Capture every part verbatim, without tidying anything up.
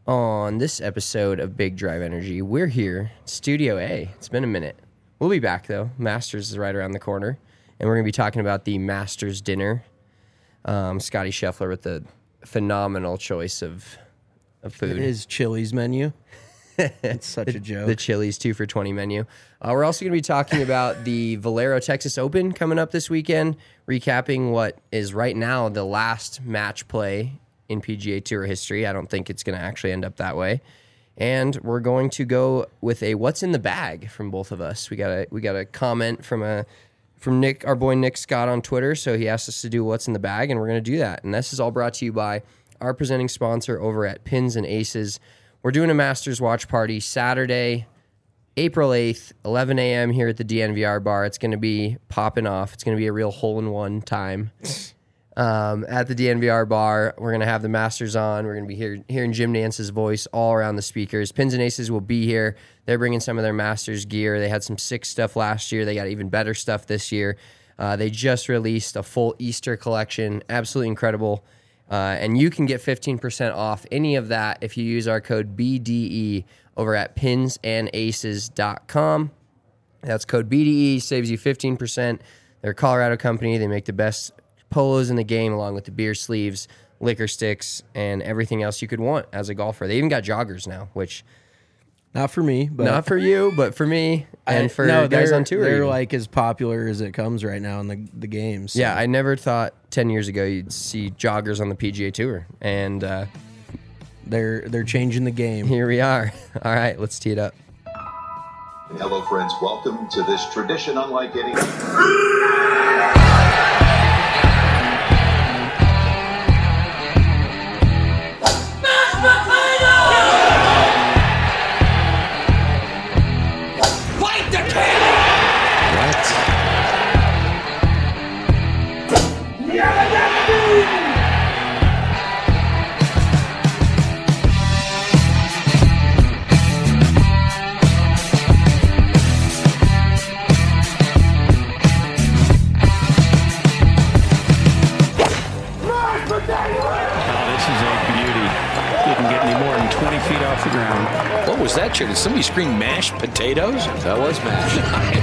On this episode of Big Drive Energy, we're here, Studio A. It's been a minute. We'll be back, though. Masters is right around the corner, and we're going to be talking about the Masters dinner. Um, Scotty Scheffler with the phenomenal choice of, of food. His Chili's menu. It's such the, a joke. The Chili's two for twenty menu. Uh, we're also going to be talking about the Valero Texas Open coming up this weekend, recapping what is right now the last match play in P G A Tour history. I don't think it's going to actually end up that way. And we're going to go with a what's in the bag from both of us. We got a we got a comment from a from Nick, our boy Nick Scott on Twitter. So he asked us to do what's in the bag, and we're going to do that. And this is all brought to you by our presenting sponsor over at Pins and Aces. We're doing a Masters watch party Saturday, April eighth, eleven a.m. here at the D N V R bar. It's going to be popping off. It's going to be a real hole-in-one time. Um, at the D N V R bar, we're going to have the Masters on. We're going to be hear, hearing Jim Nance's voice all around the speakers. Pins and Aces will be here. They're bringing some of their Masters gear. They had some sick stuff last year. They got even better stuff this year. Uh, they just released a full Easter collection. Absolutely incredible. Uh, and you can get fifteen percent off any of that if you use our code B D E over at pins and aces dot com. That's code B D E, saves you fifteen percent. They're a Colorado company. They make the best polos in the game, along with the beer sleeves, liquor sticks, and everything else you could want as a golfer. They even got joggers now, which not for me, but not for you, but for me and I, for no, guys they're, on tour. They're even. like as popular as it comes right now in the the games. So. Yeah, I never thought ten years ago you'd see joggers on the P G A Tour, and uh, they're they're changing the game. Here we are. All right, let's tee it up. Hello, friends. Welcome to this tradition unlike any. What was that, Chair? Did somebody scream mashed potatoes? That was mashed.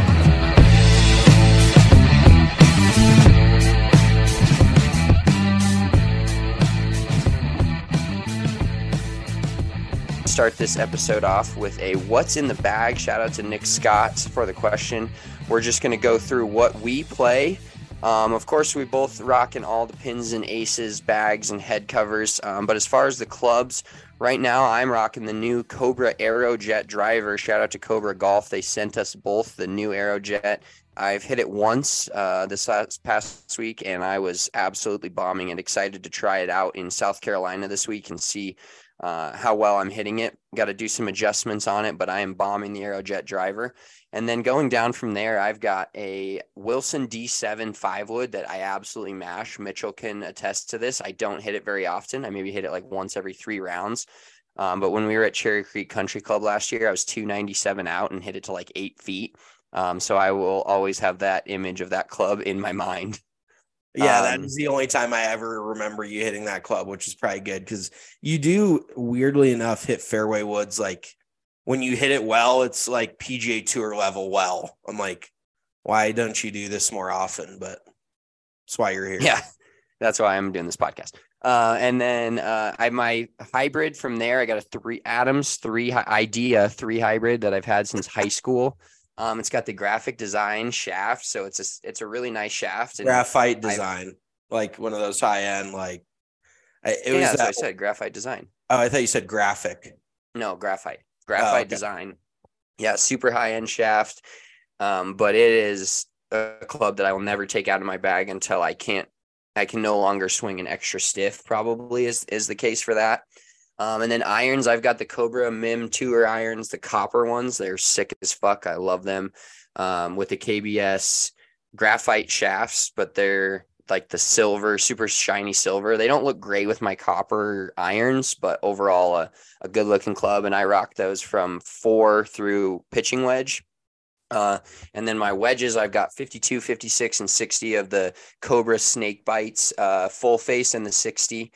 Start this episode off with a what's in the bag. Shout out to Nick Scott for the question. We're just going to go through what we play. Um, of course, we both rocking all the Pins and Aces bags and head covers. Um, but as far as the clubs, right now I'm rocking the new Cobra Aerojet driver. Shout out to Cobra Golf. They sent us both the new Aerojet. I've hit it once uh, this last past week, and I was absolutely bombing and excited to try it out in South Carolina this week and see uh, how well I'm hitting it. Got to do some adjustments on it, but I am bombing the Aerojet driver. And then going down from there, I've got a Wilson D seven five wood that I absolutely mash. Mitchell can attest to this. I don't hit it very often. I maybe hit it like once every three rounds. Um, but when we were at Cherry Creek Country Club last year, I was two ninety-seven out and hit it to like eight feet. Um, so I will always have that image of that club in my mind. Yeah, Um, that is the only time I ever remember you hitting that club, which is probably good because you do, weirdly enough, hit fairway woods. Like when you hit it well, it's like P G A Tour level well. I'm like, why don't you do this more often? But that's why you're here. Yeah, that's why I'm doing this podcast. Uh, and then uh, I my hybrid from there. I got a three Adams three Idea three hybrid that I've had since high school. Um, it's got the graphic design shaft, so it's a it's a really nice shaft. And Graphite design, I, like one of those high end, like it yeah, was. That's That, what I said, graphite design. Oh, I thought you said graphic. No, graphite, graphite oh, okay. design. Yeah, super high end shaft. Um, but it is a club that I will never take out of my bag until I can't. I can no longer swing an extra stiff. Probably is is the case for that. Um, and then irons, I've got the Cobra M I M Tour irons, the copper ones. They're sick as fuck. I love them. Um, with the K B S graphite shafts, but they're like the silver, super shiny silver. They don't look great with my copper irons, but overall a, a good looking club. And I rock those from four through pitching wedge. Uh, and then my wedges, I've got fifty-two, fifty-six, and sixty of the Cobra snake bites, uh, full face and the sixty.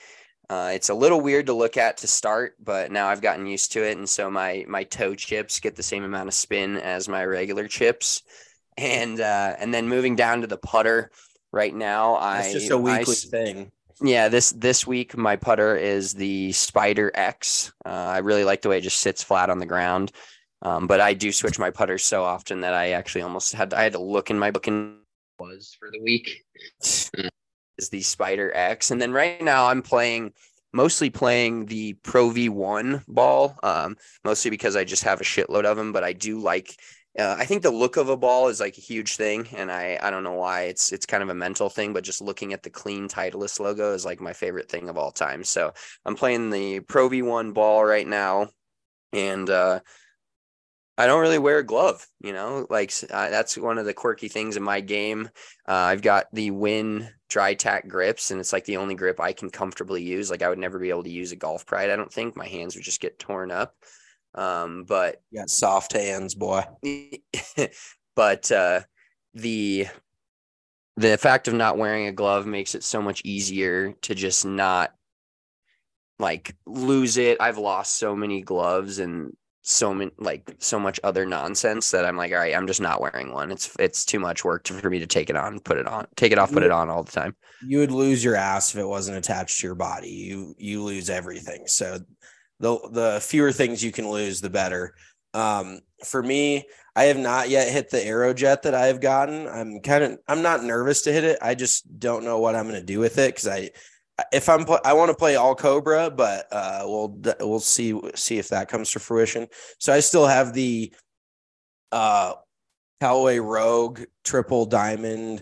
Uh, it's a little weird to look at to start, but now I've gotten used to it. And so my, my toe chips get the same amount of spin as my regular chips. And, uh, and then moving down to the putter right now, That's I just a weekly I, thing. Yeah, this this week my putter is the Spider X. Uh, I really like the way it just sits flat on the ground. Um, but I do switch my putters so often that I actually almost had I had to look in my book and was for the week is the Spider X. And then right now I'm playing mostly playing the Pro V one ball, um, mostly because I just have a shitload of them. But I do like. Uh, I think the look of a ball is like a huge thing, and I, I don't know why. It's it's kind of a mental thing, but just looking at the clean Titleist logo is like my favorite thing of all time. So I'm playing the Pro V one ball right now, and uh, I don't really wear a glove, you know, like uh, that's one of the quirky things in my game. Uh, I've got the Win dry tack grips, and it's like the only grip I can comfortably use. Like I would never be able to use a Golf Pride. I don't think my hands would just get torn up. Um, but You got soft hands, boy. but uh, the the fact of not wearing a glove makes it so much easier to just not like lose it. I've lost so many gloves and so many like so much other nonsense that I'm like, all right, I'm just not wearing one. It's it's too much work to, for me to take it on, put it on, take it off, put it on all the time. You would lose your ass if it wasn't attached to your body. You you lose everything. So the the fewer things you can lose, the better. Um, for me, I have not yet hit the Aerojet that I've gotten. I'm kind of I'm not nervous to hit it. I just don't know what I'm going to do with it because I if I'm I want to play all Cobra, but uh, we'll we'll see see if that comes to fruition. So I still have the uh, Callaway Rogue Triple Diamond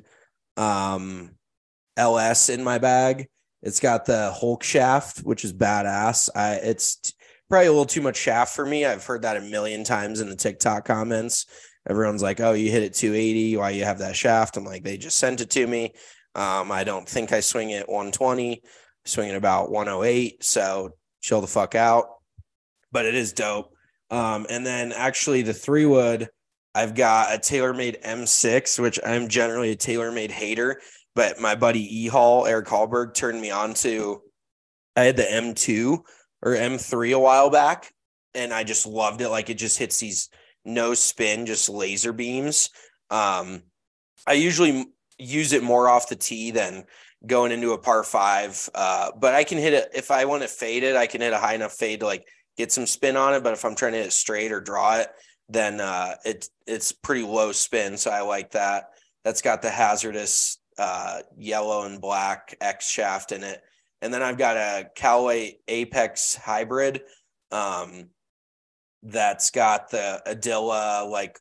um, L S in my bag. It's got the Hulk shaft, which is badass. I it's t- probably a little too much shaft for me. I've heard that a million times in the TikTok comments. Everyone's like, "Oh, you hit it two eighty. Why you have that shaft?" I'm like, they just sent it to me. Um, I don't think I swing it one twenty. I swing it about one oh eight. So chill the fuck out. But it is dope. Um, and then actually the three wood, I've got a TaylorMade M six, which I'm generally a TaylorMade hater. But my buddy E Hall, Eric Hallberg, turned me on to. I had the M two or M three a while back, and I just loved it. Like it just hits these no spin, just laser beams. Um, I usually use it more off the tee than going into a par five. Uh, but I can hit it if I want to fade it. I can hit a high enough fade to like get some spin on it. But if I'm trying to hit it straight or draw it, then uh, it it's pretty low spin. So I like that. That's got the hazardous uh yellow and black X shaft in it, and then I've got a Callaway Apex hybrid um that's got the Adilla like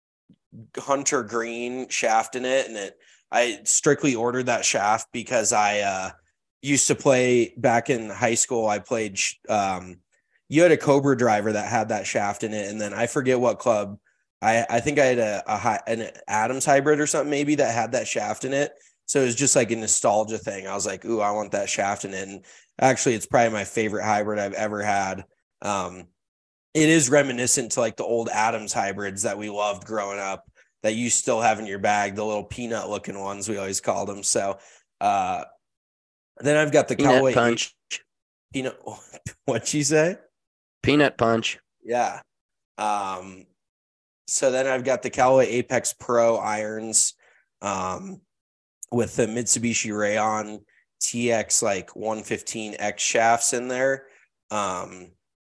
hunter green shaft in it, and it I strictly ordered that shaft because I uh used to play back in high school. I played um you had a Cobra driver that had that shaft in it, and then I forget what club I, I think I had a, a high, an Adams hybrid or something maybe that had that shaft in it. So it was just like a nostalgia thing. I was like, ooh, I want that shaft in it. And actually, it's probably my favorite hybrid I've ever had. Um, it is reminiscent to like the old Adams hybrids that we loved growing up that you still have in your bag, the little peanut looking ones we always called them. So uh, then I've got the Peanut Callaway punch. Peanut. What'd she say? Peanut punch. Yeah. Um, so then I've got the Callaway Apex Pro irons um, with the Mitsubishi Rayon T X like one fifteen X shafts in there. Um,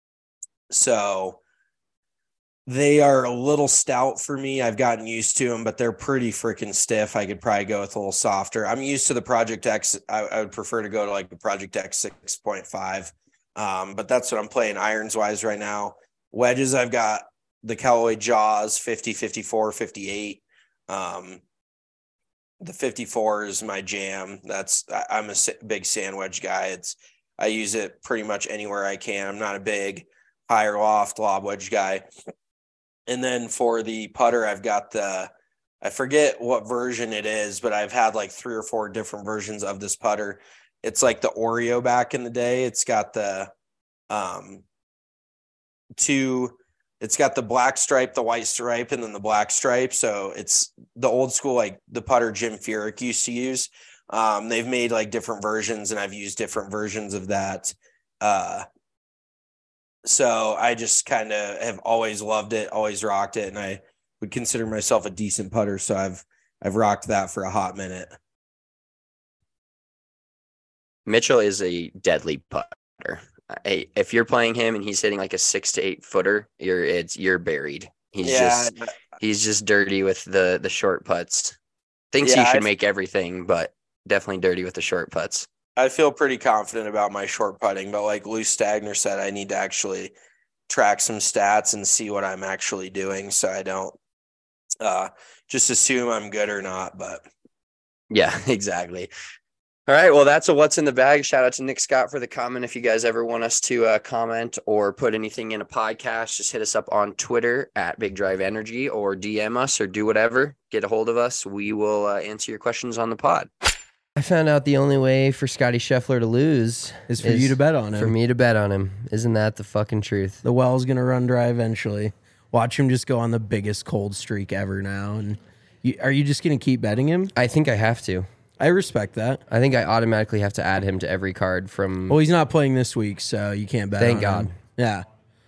so they are a little stout for me. I've gotten used to them, but they're pretty freaking stiff. I could probably go with a little softer. I'm used to the Project X. I, I would prefer to go to like the Project X six point five. Um, but that's what I'm playing irons wise right now. Wedges, I've got the Callaway Jaws fifty, fifty-four, fifty-eight. Um, the fifty-four is my jam. That's I'm a big sand wedge guy. It's I use it pretty much anywhere I can. I'm not a big higher loft lob wedge guy. And then for the putter, I've got the I forget what version it is, but I've had like three or four different versions of this putter. It's like the Oreo back in the day. It's got the um two it's got the black stripe, the white stripe, and then the black stripe. So it's the old school, like the putter Jim Furyk used to use. Um, they've made like different versions, and I've used different versions of that. Uh, so I just kind of have always loved it, always rocked it, and I would consider myself a decent putter. So I've I've rocked that for a hot minute. Mitchell is a deadly putter. Hey, if you're playing him and he's hitting like a six to eight footer, you're it's you're buried. He's Yeah. just he's just dirty with the the short putts. Thinks Yeah, he should I- make everything, but definitely dirty with the short putts. I feel pretty confident about my short putting, but like Lou Stagner said, I need to actually track some stats and see what I'm actually doing, so I don't uh, just assume I'm good or not. But Yeah, exactly. All right, well, that's a what's in the bag. Shout out to Nick Scott for the comment. If you guys ever want us to uh, comment or put anything in a podcast, just hit us up on Twitter at Big Drive Energy or D M us or do whatever. Get a hold of us. We will uh, answer your questions on the pod. I found out the only way for Scotty Scheffler to lose Is for you to bet on him. For me to bet on him. Isn't that the fucking truth? The well's gonna run dry eventually. Watch him just go on the biggest cold streak ever now. And you, are you just gonna keep betting him? I think I have to. I respect that. I think I automatically have to add him to every card from. Well, he's not playing this week, so you can't bet. Thank on God. him. Yeah.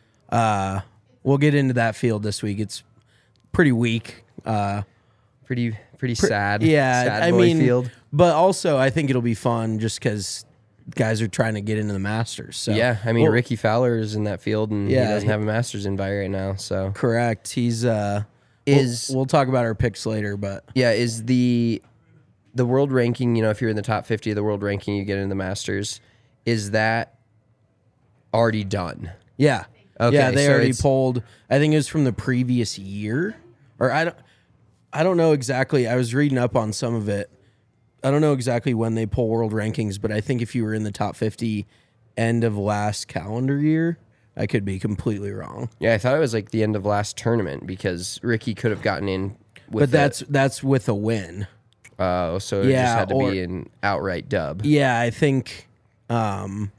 Uh, we'll get into that field this week. It's pretty weak. Uh, pretty pretty sad. yeah, sad I boy mean, field. but also I think it'll be fun just because guys are trying to get into the Masters. So Yeah, I mean Well, Ricky Fowler is in that field and Yeah, he doesn't he- have a Masters invite right now. So correct. He's uh, Is- we'll, we'll talk about our picks later, but yeah, is the the world ranking? You know, if you're in the top fifty of the world ranking, you get into the Masters. Is that already done? yeah, Okay, yeah, they so already it's- polled. I think it was from the previous year, or I don't, I don't know exactly. I was reading up on some of it. I don't know exactly when they pull world rankings, but I think if you were in the top fifty end of last calendar year, I could be completely wrong. Yeah, I thought it was like the end of last tournament because Ricky could have gotten in. With But that's that's with a win. uh, so it Yeah, just had to or- be an outright dub. Yeah, I think um,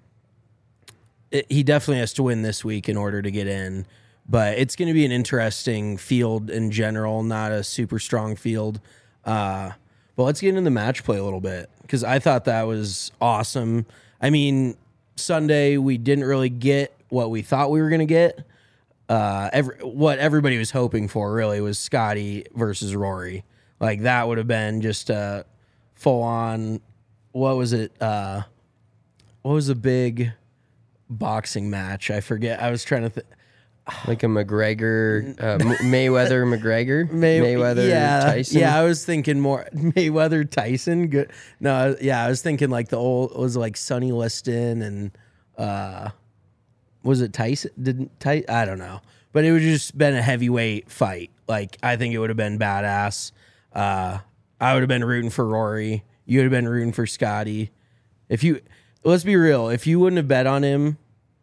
it, he definitely has to win this week in order to get in. But it's going to be an interesting field in general, not a super strong field. Uh, but let's get into the match play a little bit because I thought that was awesome. I mean, Sunday we didn't really get what we thought we were going to get. Uh, every, what everybody was hoping for really was Scotty versus Rory. Like that would have been just a full on. What was it? Uh, what was a big boxing match? I forget. I was trying to think. Like a McGregor, uh, M- Mayweather, McGregor, May- Mayweather, yeah, Tyson. Yeah, I was thinking more Mayweather Tyson. Good. No, yeah, I was thinking like the old was it like Sonny Liston and uh, was it Tyson? Didn't Ty? I don't know, but it would just been a heavyweight fight. Like I think it would have been badass. Uh, I would have been rooting for Rory. You would have been rooting for Scotty. If you let's be real, if you wouldn't have bet on him,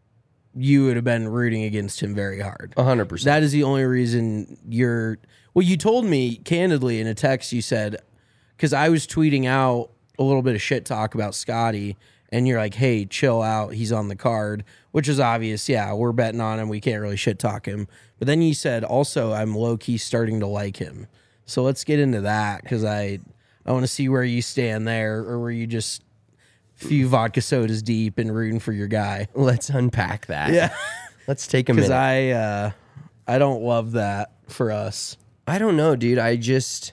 you would have been rooting against him very hard. one hundred percent. That is the only reason you're. Well, you told me candidly in a text, you said, because I was tweeting out a little bit of shit talk about Scotty, and you're like, hey, chill out. He's on the card, which is obvious. Yeah, we're betting on him. We can't really shit talk him. But then you said, also, I'm low key starting to like him. So let's get into that because I, I want to see where you stand there or where you just few vodka sodas deep and rooting for your guy. Let's unpack that. Yeah. Let's take a Because minute. I uh, I don't love that for us. I don't know, dude. I just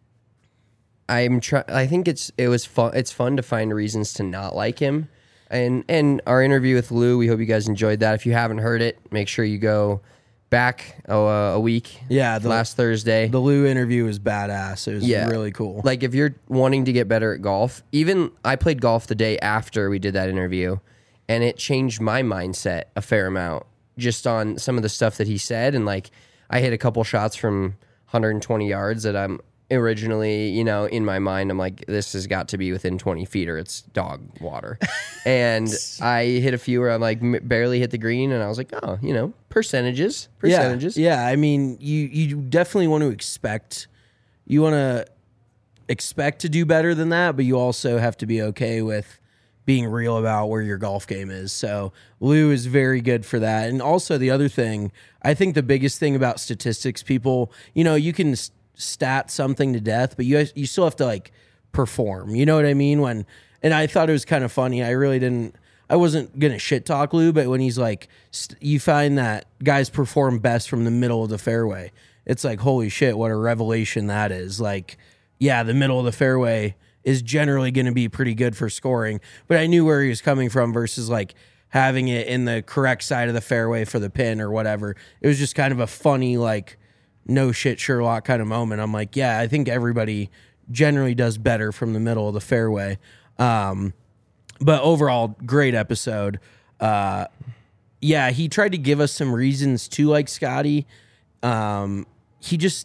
I'm try I think it's it was fun it's fun to find reasons to not like him. And and our interview with Lou, we hope you guys enjoyed that. If you haven't heard it, make sure you go back uh, a week. Yeah, the- last Thursday. The Lou interview was badass. It was Yeah. really cool. Like if you're wanting to get better at golf, even I played golf the day after we did that interview, and it changed my mindset a fair amount just on some of the stuff that he said. And like I hit a couple shots from one hundred twenty yards that I'm originally, you know, in my mind, I'm like, this has got to be within twenty feet or it's dog water. And I hit a few where I'm like m- barely hit the green, and I was like, oh, you know, percentages, percentages. Yeah, yeah. I mean, you you definitely want to expect you want to expect to do better than that, but you also have to be okay with being real about where your golf game is. So Lou is very good for that. And also the other thing, I think the biggest thing about statistics, people, you know, you can s- stat something to death, but you you still have to like perform. You know what I mean? When and I thought it was kind of funny. I really didn't. I wasn't gonna shit talk Lou, but when he's like, st- you find that guys perform best from the middle of the fairway. It's like, holy shit, what a revelation that is. Like, yeah, the middle of the fairway is generally going to be pretty good for scoring, but I knew where he was coming from versus like having it in the correct side of the fairway for the pin or whatever. It was just kind of a funny, like, no shit Sherlock kind of moment. I'm like, yeah, I think everybody generally does better from the middle of the fairway. Um, but overall, great episode. Uh, yeah, he tried to give us some reasons to like Scotty. Um, he just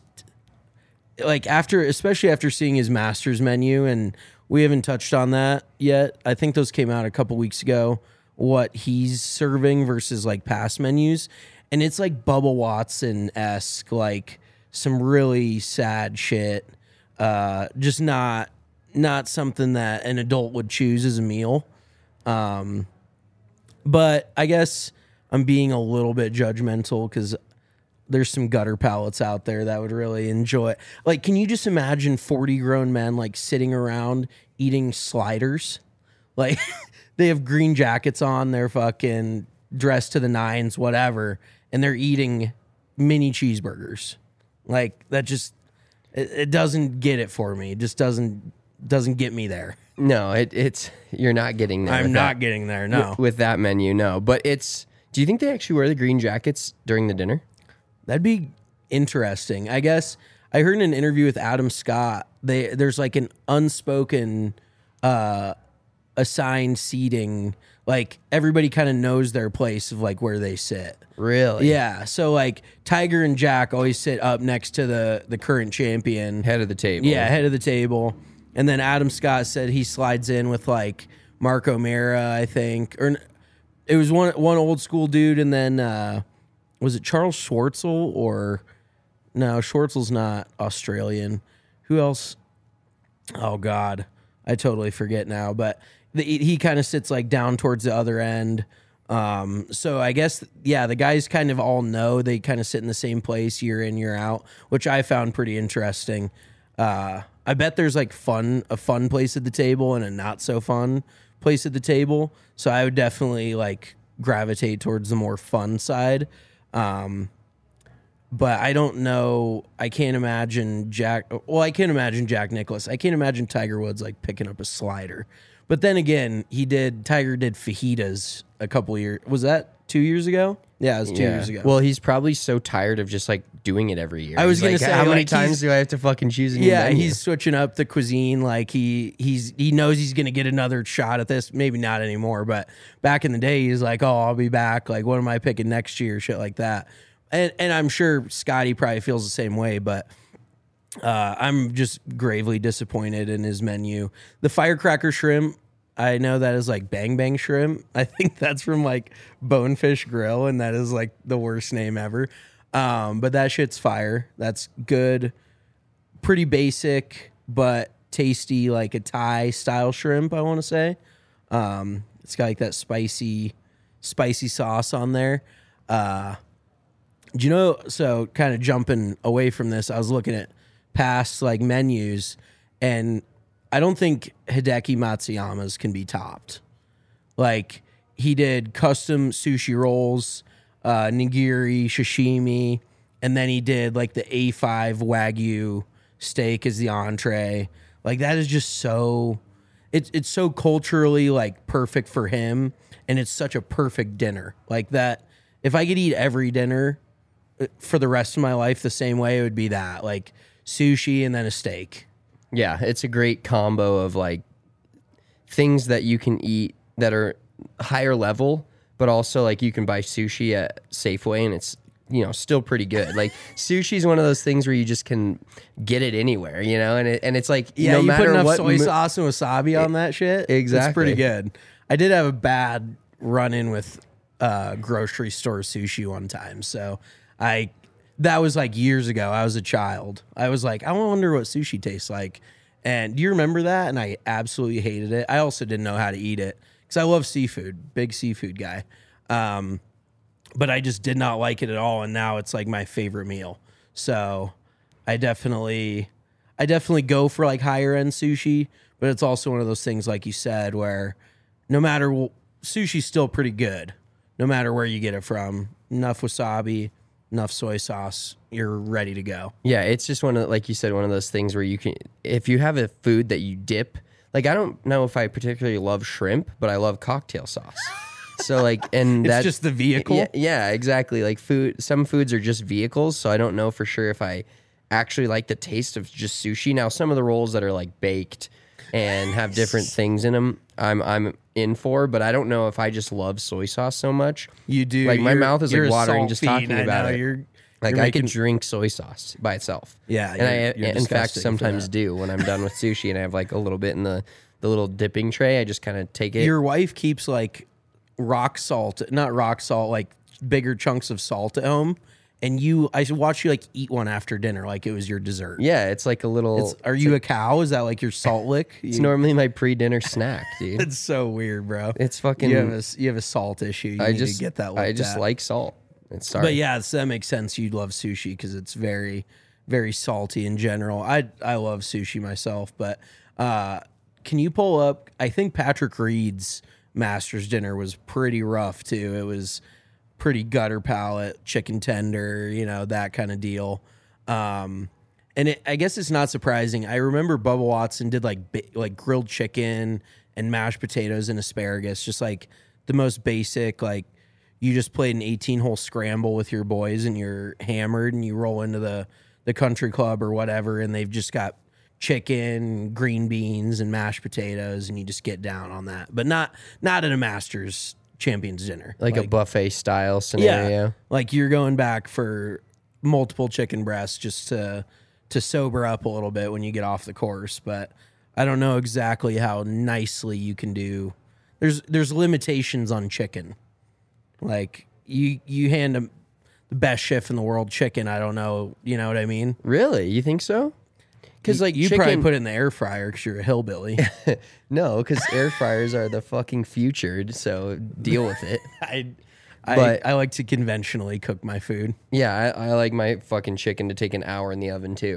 like after, especially after seeing his Masters menu, and we haven't touched on that yet. I think those came out a couple weeks ago. What he's serving versus like past menus, and it's like Bubba Watson-esque, like some really sad shit. Uh, just not not something that an adult would choose as a meal. Um, but I guess I'm being a little bit judgmental because there's some gutter palates out there that would really enjoy it. Like, can you just imagine forty grown men like sitting around eating sliders? Like they have green jackets on, they're fucking dressed to the nines, whatever, and they're eating mini cheeseburgers. Like that just it, it doesn't get it for me. It just doesn't doesn't get me there. No, it, it's you're not getting there. I'm with not that, getting there. No, with, with that menu, no. But it's. Do you think they actually wear the green jackets during the dinner? That'd be interesting. I guess I heard in an interview with Adam Scott, they there's like an unspoken uh, assigned seating. Like everybody kind of knows their place of like where they sit. Really? Yeah. So like Tiger and Jack always sit up next to the the current champion, Head of the table. yeah, head of the table. And then Adam Scott said he slides in with like Mark O'Mara, I think, or it was one one old school dude, and then. Uh, Was it Charles Schwartzel or no? Schwartzel's not Australian. Who else? Oh God, I totally forget now. But the, he kind of sits like down towards the other end. Um, so I guess yeah, the guys kind of all know they kind of sit in the same place year in year out, which I found pretty interesting. Uh, I bet there's like fun a fun place at the table and a not so fun place at the table. So I would definitely like gravitate towards the more fun side. Um, but I don't know. I can't imagine Jack. Well, I can't imagine Jack Nicklaus. I can't imagine Tiger Woods like picking up a slider. But then again, he did. Tiger did fajitas a couple years. Was that two years ago? Yeah, it was two Yeah. years ago. Well, he's probably so tired of just like doing it every year. I was He's gonna like, say, how many like, times he's- do I have to fucking choose a new yeah, menu? he's switching up the cuisine. Like he he's he knows he's gonna get another shot at this. Maybe not anymore, but back in the day, he's like, oh, I'll be back. Like, what am I picking next year? Shit like that. And and I'm sure Scotty probably feels the same way, but uh, I'm just gravely disappointed in his menu. The firecracker shrimp, I know that is like Bang Bang Shrimp. I think that's from like Bonefish Grill, and that is like the worst name ever. Um, but that shit's fire. That's good. Pretty basic, but tasty, like a Thai style shrimp, I want to say. Um, it's got like that spicy, spicy sauce on there. Uh, do you know, so kind of jumping away from this, I was looking at past like menus, and I don't think Hideki Matsuyama's can be topped. Like he did custom sushi rolls, uh, nigiri, sashimi, and then he did like the A five Wagyu steak as the entree. Like that is just so, it's it's so culturally like perfect for him, and it's such a perfect dinner. Like that, if I could eat every dinner for the rest of my life the same way, it would be that, like sushi and then a steak. Yeah, it's a great combo of like things that you can eat that are higher level, but also like you can buy sushi at Safeway and it's, you know, still pretty good. Like sushi is one of those things where you just can get it anywhere, you know, and it, and it's like Yeah, no you matter put enough what soy mo- sauce and wasabi on that shit. Exactly. It's pretty good. I did have a bad run in with uh, grocery store sushi one time, so I that was like years ago. I was a child. I was like, I wonder what sushi tastes like. And do you remember that? And I absolutely hated it. I also didn't know how to eat it because I love seafood, big seafood guy. Um, but I just did not like it at all. And now it's like my favorite meal. So I definitely, I definitely go for like higher end sushi, but it's also one of those things, like you said, where no matter w- sushi's still pretty good, no matter where you get it from. Enough wasabi, enough soy sauce, you're ready to go. Yeah, it's just one of, like you said, one of those things where you can, if you have a food that you dip, like I don't know if I particularly love shrimp, but I love cocktail sauce. So like, and It's that's just the vehicle. Yeah, yeah, exactly. Like food, some foods are just vehicles. So I don't know for sure if I actually like the taste of just sushi. Now, some of the rolls that are like baked and have different things in them, I'm I'm in for, but I don't know if I just love soy sauce so much. You do. Like my You're- mouth is you're like a watering salt just fiend, talking I about know, it. You're, Like you're I making- could drink soy sauce by itself. Yeah, and I you're- you're in fact disgusting for sometimes that. do when I'm done with sushi and I have like a little bit in the the little dipping tray. I just kind of take it. Your wife keeps like rock salt, not rock salt, like bigger chunks of salt at home, and you, I watch you like eat one after dinner, like it was your dessert. Yeah, it's like a little. It's, are you a cow? Is that like your salt lick? It's You- normally my pre-dinner snack, dude. It's so weird, bro. It's fucking. You have a you have a salt issue. You I need just to get that. I looked just at. like salt. It's sorry. But yeah, so that makes sense. You'd love sushi because it's very, very salty in general. I I love sushi myself, but uh, can you pull up? I think Patrick Reed's Masters dinner was pretty rough too. It was pretty gutter palate, chicken tender, you know, that kind of deal. Um, and it, I guess it's not surprising. I remember Bubba Watson did like bi- like grilled chicken and mashed potatoes and asparagus, just like the most basic, like. You just played an eighteen hole scramble with your boys and you're hammered and you roll into the, the country club or whatever and they've just got chicken, green beans, and mashed potatoes and you just get down on that. But not not at a Masters Champions dinner. like, a buffet style scenario. Yeah, like you're going back for multiple chicken breasts just to to sober up a little bit when you get off the course. But I don't know exactly how nicely you can do. There's there's limitations on chicken. Like you, you hand them the best chef in the world chicken. I don't know. You know what I mean? Really? You think so? Because like you chicken, probably put it in the air fryer because you're a hillbilly. no, because air fryers are the fucking future. So deal with it. I, I, But- I like to conventionally cook my food. Yeah, I, I like my fucking chicken to take an hour in the oven too.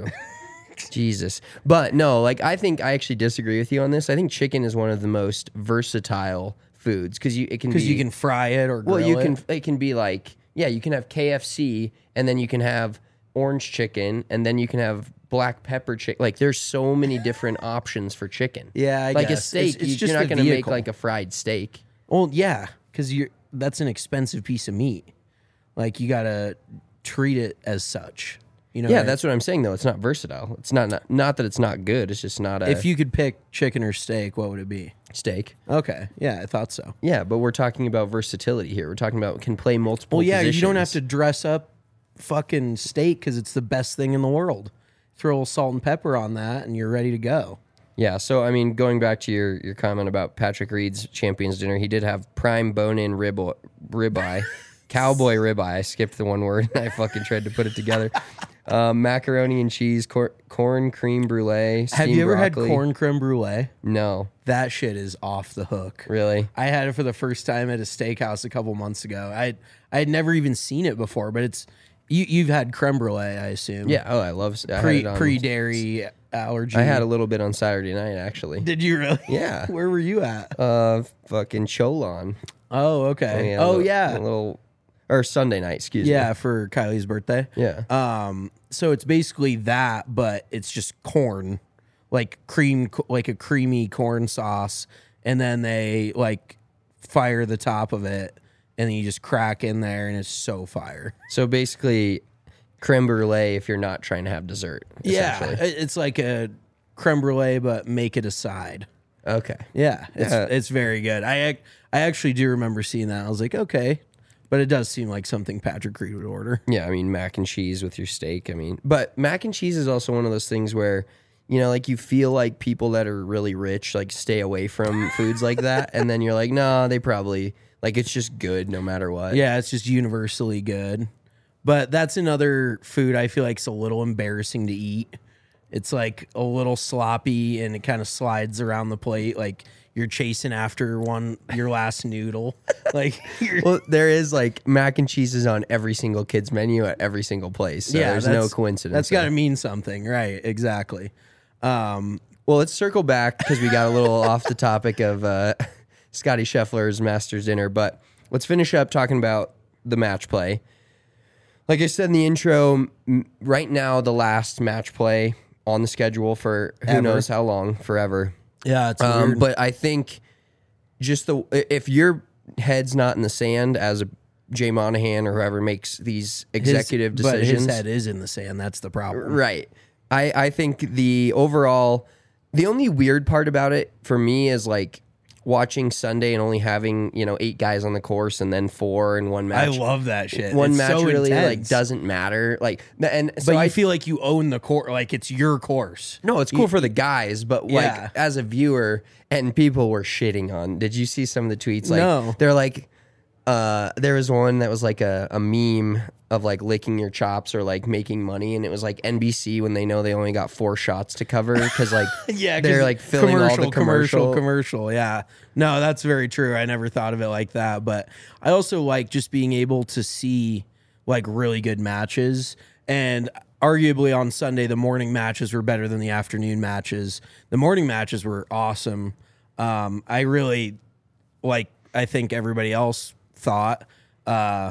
Jesus. But no, like I think I actually disagree with you on this. I think chicken is one of the most versatile foods because you it can Because be, you can fry it or grill well you it. can it can be like yeah you can have K F C and then you can have orange chicken and then you can have black pepper chicken. Like there's so many different options for chicken. Yeah, I like guess. a steak. It's- it's you, just you're not the gonna make vehicle. like a fried steak. Well, yeah, because you're that's an expensive piece of meat. Like you gotta treat it as such. You know, Yeah, what I- that's what I'm saying though. It's not versatile. It's not not, not that it's not good. It's just not a if you could pick chicken or steak, what would it be? steak. Okay, yeah, I thought so. Yeah, but we're talking about versatility here. We're talking about can play multiple. Well, yeah, you don't have positions. to dress up fucking steak because it's the best thing in the world. Throw a little salt and pepper on that, and you're ready to go. Yeah, so I mean, going back to your, your comment about Patrick Reed's Champions Dinner, he did have prime bone-in rib ribeye, cowboy ribeye. I skipped the one word. I fucking tried to put it together. Um, macaroni and cheese, cor- corn cream brulee. Have steamed you ever broccoli. had corn creme brulee? No, That shit is off the hook. really. I had it for the first time at a steakhouse a couple months ago. I I had never even seen it before, but it's you. You've had creme brulee, I assume. Yeah. Oh, I love I had Pre it on- pre dairy allergy. I had a little bit on Saturday night actually. Did you really? Yeah. Where were you at? Uh, fucking Cholon. Oh, okay. Yeah, a oh, little- yeah. a little or Sunday night. Excuse me. Yeah, for Kylie's birthday. Yeah. Um, so it's basically that, but it's just corn, like cream, like a creamy corn sauce, and then they like fire the top of it, and then you just crack in there, and it's so fire. So basically, creme brulee if you're not trying to have dessert. Yeah, essentially. it- it's like a creme brulee, but make it a side. Okay. Yeah, it's Yeah. it's very good. I ac- I actually do remember seeing that. I was like, okay, but it does seem like something Patrick Reed would order. Yeah, I mean mac and cheese with your steak. I mean, but mac and cheese is also one of those things where, you know, like you feel like people that are really rich like stay away from foods like that, and then you're like, no, they probably like it's just good no matter what. Yeah, it's just universally good. But that's another food I feel like is a little embarrassing to eat It's like a little sloppy and it kind of slides around the plate like you're chasing after one your last noodle. Like you're, Well, there is like mac and cheese is on every single kid's menu at every single place. So yeah, there's that's- no coincidence. That's got to there. mean something, right? Exactly. Um, Well, let's circle back because we got a little off the topic of uh, Scotty Scheffler's Masters dinner, but let's finish up talking about the match play. Like I said in the intro, m- right now the last match play on the schedule for who Ever. knows how long, forever. yeah, it's Um, weird. but I think just the if your head's not in the sand as a Jay Monahan or whoever makes these His- executive but decisions, his head is in the sand. That's the problem. right? I I think the overall, the only weird part about it for me is like watching Sunday and only having you know eight guys on the course and then four in one I match. love that shit. One It's match so really like intense. doesn't matter. Like and so But you I feel like you own the course, like it's your course. No, it's cool for the guys, but like Yeah. as a viewer, and people were shitting on. Did you see some of the tweets? Like No. they're like, uh, there was one that was like a, a meme of like licking your chops or like making money, and it was like N B C when they know they only got four shots to cover because like Yeah, 'cause they're like filling all the commercial, commercial. commercial. Yeah, no, that's very true. I never thought of it like that, but I also like just being able to see like really good matches. And arguably on Sunday, the morning matches were better than the afternoon matches. The morning matches were awesome. Um, I really like. I think everybody else thought. Uh,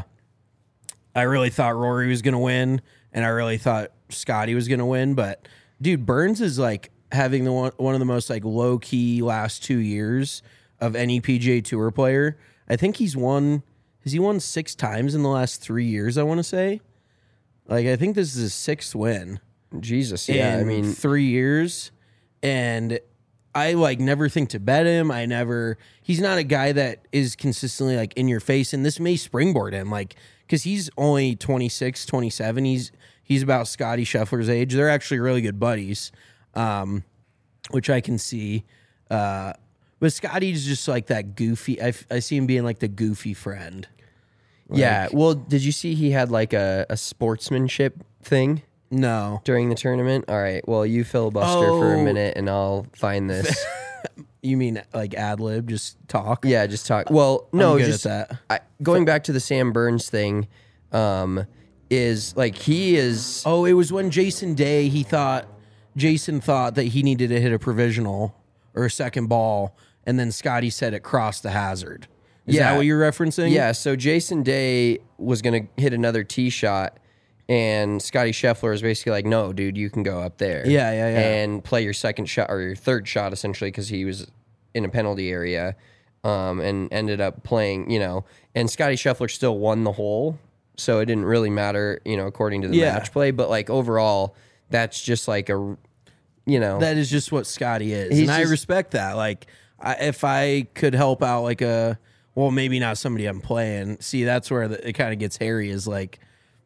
I really thought Rory was going to win, and I really thought Scotty was going to win. But dude, Burns is like having the one, one of the most like low key last two years of any P G A Tour player. I think he's won. Has he won six times in the last three years? I want to say. Like I think this is his sixth win. Jesus, yeah. in I mean, three years, and I like never think to bet him. I never. He's not a guy that is consistently like in your face, and this may springboard him, like because he's only twenty-six, twenty-seven. He's he's about Scotty Scheffler's age. They're actually really good buddies, um, which I can see. Uh, but Scotty's just like that goofy. I, I see him being like the goofy friend. yeah. Well, did you see he had like a, a sportsmanship thing No, during the tournament? All right. Well, you filibuster for a Oh. minute, and I'll find this. you mean like ad lib? Just talk. Yeah, just talk. Well, no, I'm good just at that. I, going back to the Sam Burns thing, um, is like he is. Oh, it was when Jason Day, he thought, Jason thought that he needed to hit a provisional or a second ball, and then Scotty said it crossed the hazard. Is Yeah. that what you're referencing? Yeah, so Jason Day was gonna hit another tee shot, and Scotty Scheffler is basically like, "No, dude, you can go up there." Yeah, yeah, yeah. And play your second shot or your third shot essentially because he was in a penalty area, um, and ended up playing. You know, and Scotty Scheffler still won the hole, so it didn't really matter. You know, according to the Yeah. match play, but like overall, that's just like a, you know, That is just what Scotty is. He's and I just- respect that. Like, I, if I could help out like a, well, maybe not somebody I'm playing. See, that's where the, it kind of gets hairy is like,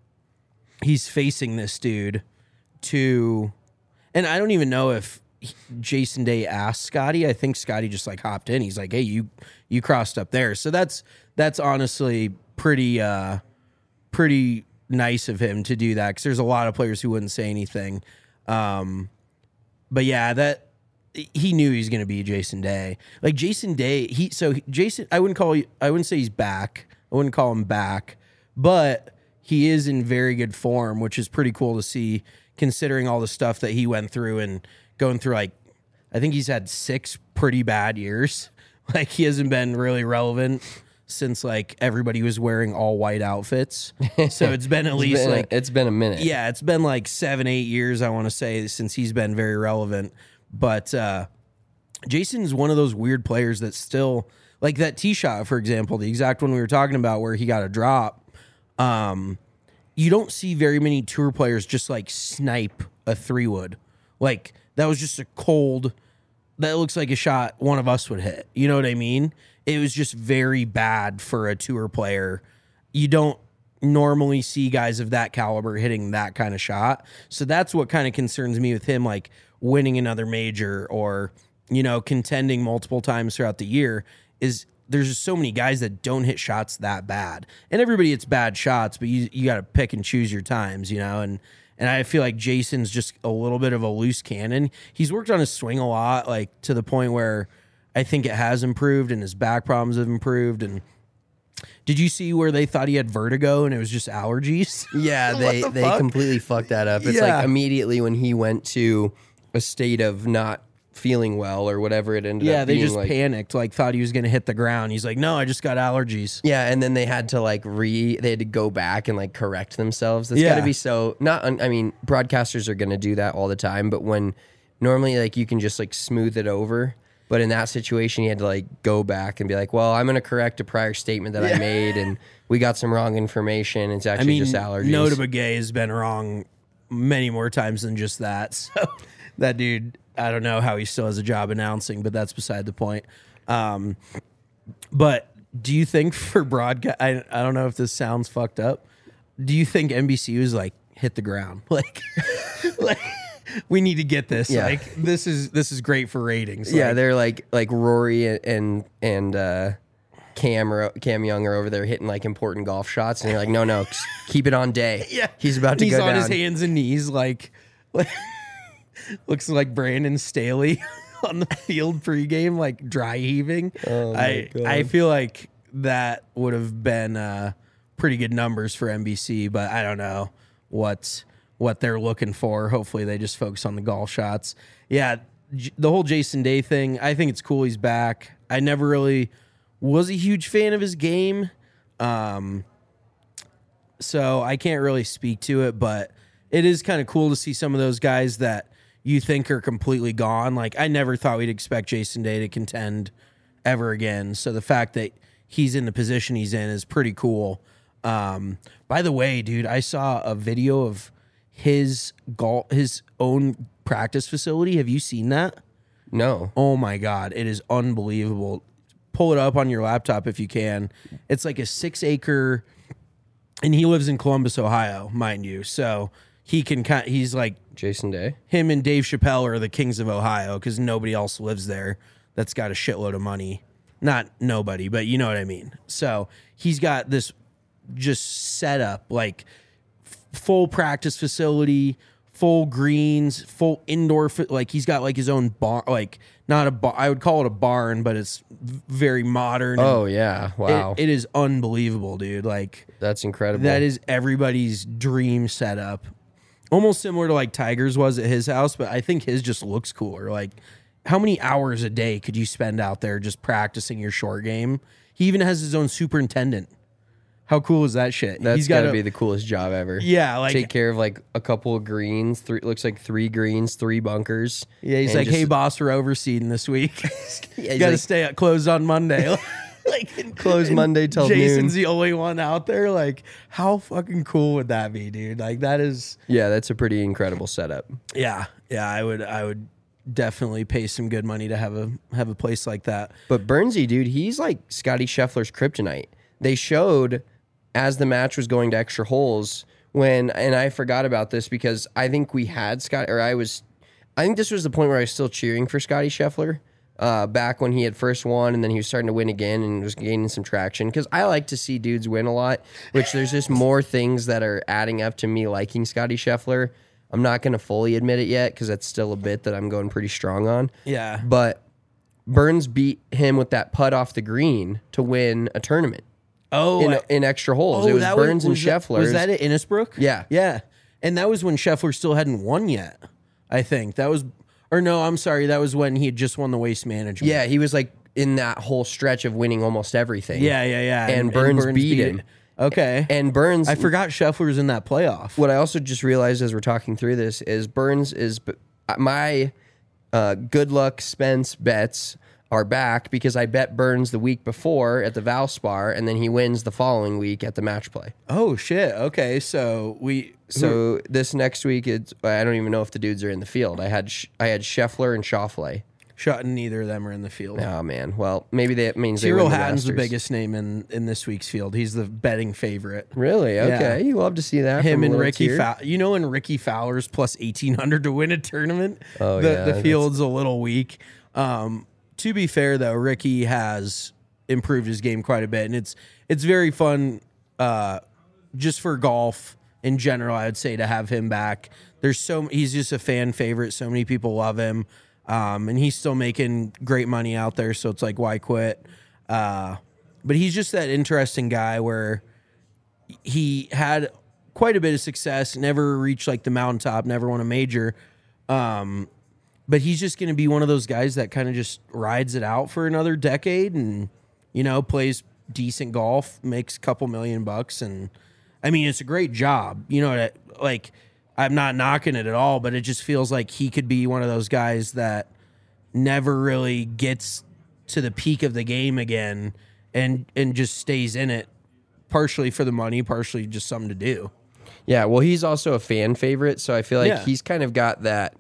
he's facing this dude to, and I don't even know if he- Jason Day asked Scotty. I think Scotty just like hopped in. He's like, "Hey, you you crossed up there." So that's that's honestly pretty uh pretty nice of him to do that because there's a lot of players who wouldn't say anything. Um, but yeah, that he knew he was going to be Jason Day. Like Jason Day, he so he- Jason. I wouldn't call I wouldn't say he's back. I wouldn't call him back, but he is in very good form, which is pretty cool to see considering all the stuff that he went through and going through. Like, I think he's had six pretty bad years. Like, he hasn't been really relevant since like everybody was wearing all white outfits. So it's been at it's least been, like it's been a minute. yeah, it's been like seven, eight years, I want to say, since he's been very relevant. But uh, Jason's one of those weird players that still, like that tee shot, for example, the exact one we were talking about where he got a drop. Um, you don't see very many tour players just like snipe a three wood. Like that was just a cold, that looks like a shot one of us would hit. You know what I mean? It was just very bad for a tour player. You don't normally see guys of that caliber hitting that kind of shot. So that's what kind of concerns me with him, like winning another major or, you know, contending multiple times throughout the year, is there's just so many guys that don't hit shots that bad. And everybody hits bad shots, but you you got to pick and choose your times, you know, and And I feel like Jason's just a little bit of a loose cannon. He's worked on his swing a lot, like to the point where I think it has improved and his back problems have improved. And did you see where they thought he had vertigo and it was just allergies? Yeah, they the they fuck? completely fucked that up. It's Yeah. like immediately when he went to a state of not feeling well or whatever it ended Yeah, up they being just like. panicked, like thought he was going to hit the ground. He's like, no, I just got allergies. Yeah, and then they had to like re they had to go back and like correct themselves. That's Yeah. got to be so not un- I mean, broadcasters are going to do that all the time, but when normally like you can just like smooth it over, but in that situation you had to like go back and be like, "Well, I'm going to correct a prior statement that I made and we got some wrong information. It's actually I mean, just allergies." Nota Begay has been wrong many more times than just that. So that dude, I don't know how he still has a job announcing, but that's beside the point. Um, but do you think for broadcast, I, I don't know if this sounds fucked up. Do you think N B C was like, hit the ground? Like, like we need to get this. Yeah. Like, this is this is great for ratings. Yeah, Like, they're like like Rory and and uh, Cam are, Cam Young are over there hitting like important golf shots, and you're like, no, no, keep it on day. yeah, he's about to he's go on down. his hands and knees, like, like looks like Brandon Staley on the field pregame, like dry heaving. Oh, my I God. I feel like that would have been uh, pretty good numbers for N B C, but I don't know what what they're looking for. Hopefully, they just focus on the golf shots. Yeah, J- the whole Jason Day thing. I think it's cool he's back. I never really was a huge fan of his game. Um, so I can't really speak to it, but it is kind of cool to see some of those guys that you think are completely gone. Like, I never thought we'd expect Jason Day to contend ever again. So the fact that he's in the position he's in is pretty cool. Um, by the way, dude, I saw a video of his golf, his own practice facility. Have you seen that? No. Oh my God, it is unbelievable. Pull it up on your laptop if you can. It's like a six acre, and he lives in Columbus, Ohio, mind you. So he can kind. He's like Jason Day. him and Dave Chappelle are the kings of Ohio because nobody else lives there that's got a shitload of money. Not nobody, but you know what I mean. So he's got this just set up like f- full practice facility, full greens, full indoor. Fi- like he's got like his own bar, like not a bar. I would call it a barn, but it's v- very modern. and Oh yeah! Wow, it, it is unbelievable, dude. Like that's incredible. that is everybody's dream setup. Almost similar to like Tiger's was at his house, but I think his just looks cooler. Like, how many hours a day could you spend out there just practicing your short game? He even has his own superintendent. How cool is that shit? That's He's got gotta a- be the coolest job ever. Yeah, like take care of like a couple of greens. Three looks like three greens, three bunkers. yeah, he's and like, just- hey boss, we're overseeding this week. Yeah, you he's got to like, stay at closed on Monday. like close and Monday till Jason's noon. the only one out there. Like, how fucking cool would that be, dude? Like, that is. Yeah, that's a pretty incredible setup. Yeah, yeah, I would, I would definitely pay some good money to have a have a place like that. But Burnsy, dude, he's like Scotty Scheffler's kryptonite. They showed as the match was going to extra holes when, and I forgot about this because I think we had Scott, or I was, I think this was the point where I was still cheering for Scotty Scheffler uh, back when he had first won and then he was starting to win again and was gaining some traction. Because I like to see dudes win a lot, which there's just more things that are adding up to me liking Scotty Scheffler. I'm not going to fully admit it yet because that's still a bit that I'm going pretty strong on. Yeah, But Burns beat him with that putt off the green to win a tournament Oh, in, I- in extra holes. it was that Burns and was that- Scheffler. Was that at Innisbrook? Yeah. yeah, and that was when Scheffler still hadn't won yet. I think that was, or no, I'm sorry, that was when he had just won the Waste Management. Yeah, he was like in that whole stretch of winning almost everything. yeah, yeah, yeah. And Burns beat it. him. Okay, And Burns, I forgot Scheffler was in that playoff. what I also just realized as we're talking through this is Burns is my uh, good luck Spence bets are back because I bet Burns the week before at the Valspar and then he wins the following week at the match play. Oh shit. Okay, so we So this next week, it's I don't even know if the dudes are in the field. I had Sh- I had Scheffler and Schauffele. shot and neither of them are in the field. Oh man, well maybe that means they Cyril win the Hatton's the Masters. biggest name in, in this week's field. He's the betting favorite. Really? Yeah. Okay, you love to see that. Him from a and little Ricky tier. Fowler. You know when Ricky Fowler's plus eighteen hundred to win a tournament? Oh, the, yeah, The that's- field's a little weak. Um, to be fair, though, Ricky has improved his game quite a bit, and it's it's very fun uh, just for golf in general, I would say to have him back. There's so he's just a fan favorite. So many people love him, um, and he's still making great money out there. So it's like, why quit? Uh, but he's just that interesting guy where he had quite a bit of success, never reached like the mountaintop, never won a major. Um, but he's just going to be one of those guys that kind of just rides it out for another decade and, you know, plays decent golf, makes a couple million bucks. And I mean, it's a great job, you know, that, like, I'm not knocking it at all, but it just feels like he could be one of those guys that never really gets to the peak of the game again and, and just stays in it, partially for the money, partially just something to do. Yeah, well, he's also a fan favorite, so I feel like Yeah. he's kind of got that.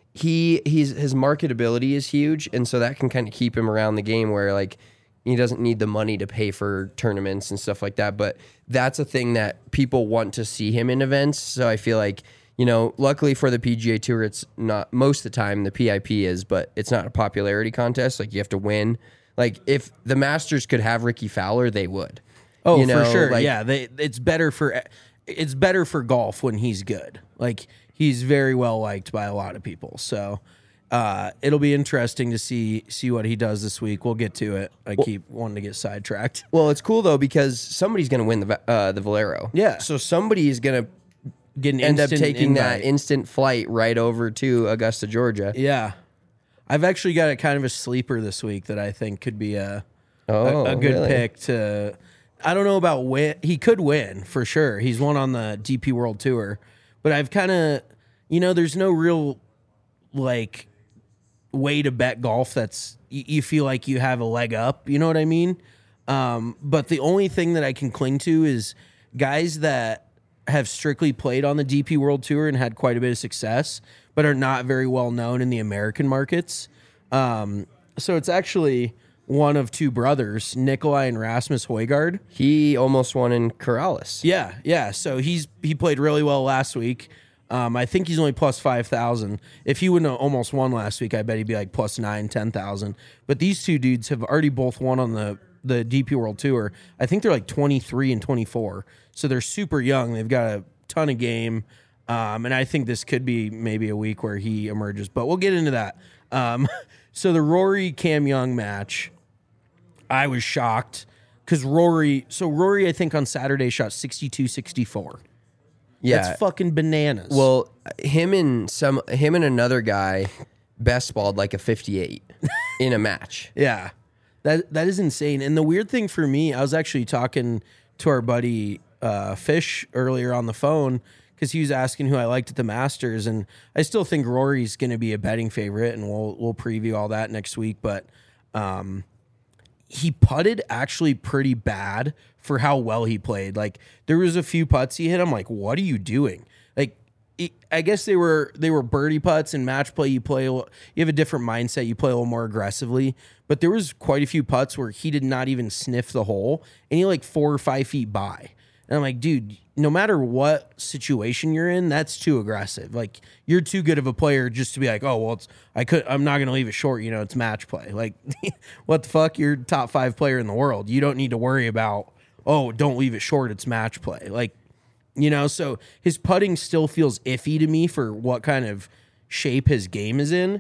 He he's his marketability is huge, and so that can kind of keep him around the game where like he doesn't need the money to pay for tournaments and stuff like that. But that's a thing that people want to see him in events. So I feel like, you know, luckily for the P G A Tour, it's not most of the time the P I P is, but it's not a popularity contest. Like you have to win. Like if the Masters could have Ricky Fowler, they would. Oh, You know, for sure. like- yeah, they, it's better for it's better for golf when he's good. Like he's very well liked by a lot of people. So uh, it'll be interesting to see see what he does this week. We'll get to it. I keep wanting to get sidetracked. Well, it's cool though because somebody's going to win the Va- uh, the Valero. Yeah. So somebody is going to Get an end up instant taking that invite. instant flight right over to Augusta, Georgia. Yeah, I've actually got a kind of a sleeper this week that I think could be a Oh, a, a good really? pick to. I don't know about win. He could win for sure. He's won on the D P World Tour, but I've kind of, you know, there's no real like way to bet golf that's you, you feel like you have a leg up. You know what I mean? Um, but the only thing that I can cling to is guys that have strictly played on the D P World Tour and had quite a bit of success, but are not very well known in the American markets. Um, so it's actually one of two brothers, Nikolai and Rasmus Højgaard. He almost won in Corrales. Yeah, yeah. So he's he played really well last week. Um, I think he's only plus five thousand. If he wouldn't have almost won last week, I bet he'd be like plus nine, ten thousand. But these two dudes have already both won on the the D P World Tour. I think they're like twenty-three and twenty-four, so they're super young. They've got a ton of game, um, and I think this could be maybe a week where he emerges. But we'll get into that. Um, so the Rory Cam Young match, I was shocked because Rory. So Rory, I think on Saturday shot sixty-two sixty-four. Yeah. That's fucking bananas. Well, him and some him and another guy best balled like a fifty-eight in a match. yeah, that that is insane. And the weird thing for me, I was actually talking to our buddy uh, Fish earlier on the phone because he was asking who I liked at the Masters, and I still think Rory's going to be a betting favorite, and we'll we'll preview all that next week. But um, he putted actually pretty bad for how well he played. Like there was a few putts he hit. I'm like, what are you doing? Like, it, I guess they were they were birdie putts. In match play, you play a little- you have a different mindset. You play a little more aggressively. But there was quite a few putts where he did not even sniff the hole, and he like four or five feet by. And I'm like, dude, no matter what situation you're in, that's too aggressive. Like you're too good of a player just to be like, oh well, it's I could I'm not gonna leave it short. You know, it's match play. Like, what the fuck? You're top five player in the world. You don't need to worry about, oh, don't leave it short. It's match play. Like, you know, so his putting still feels iffy to me for what kind of shape his game is in.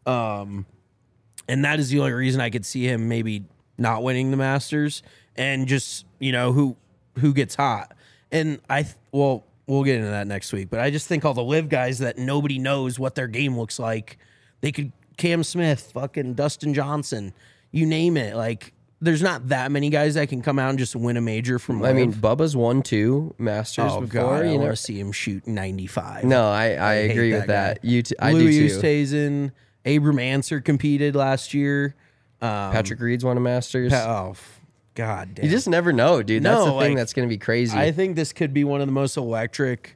Um, and that is the only reason I could see him maybe not winning the Masters and just, you know, who who gets hot. And I, th- well, we'll get into that next week, but I just think all the live guys that nobody knows what their game looks like, they could, Cam Smith, fucking Dustin Johnson, you name it. Like, there's not that many guys that can come out and just win a major from I live. mean, Bubba's won two Masters oh, before. God, I you know? want to see him shoot ninety-five. No, I, I, hate agree that with that. guy. You, t- I Louis do too. Oosthuizen, Abram Anser competed last year. Um, Patrick Reed's won a Masters. Pa- oh, f- God damn. You just never know, dude. That's No, the thing like, that's going to be crazy. I think this could be one of the most electric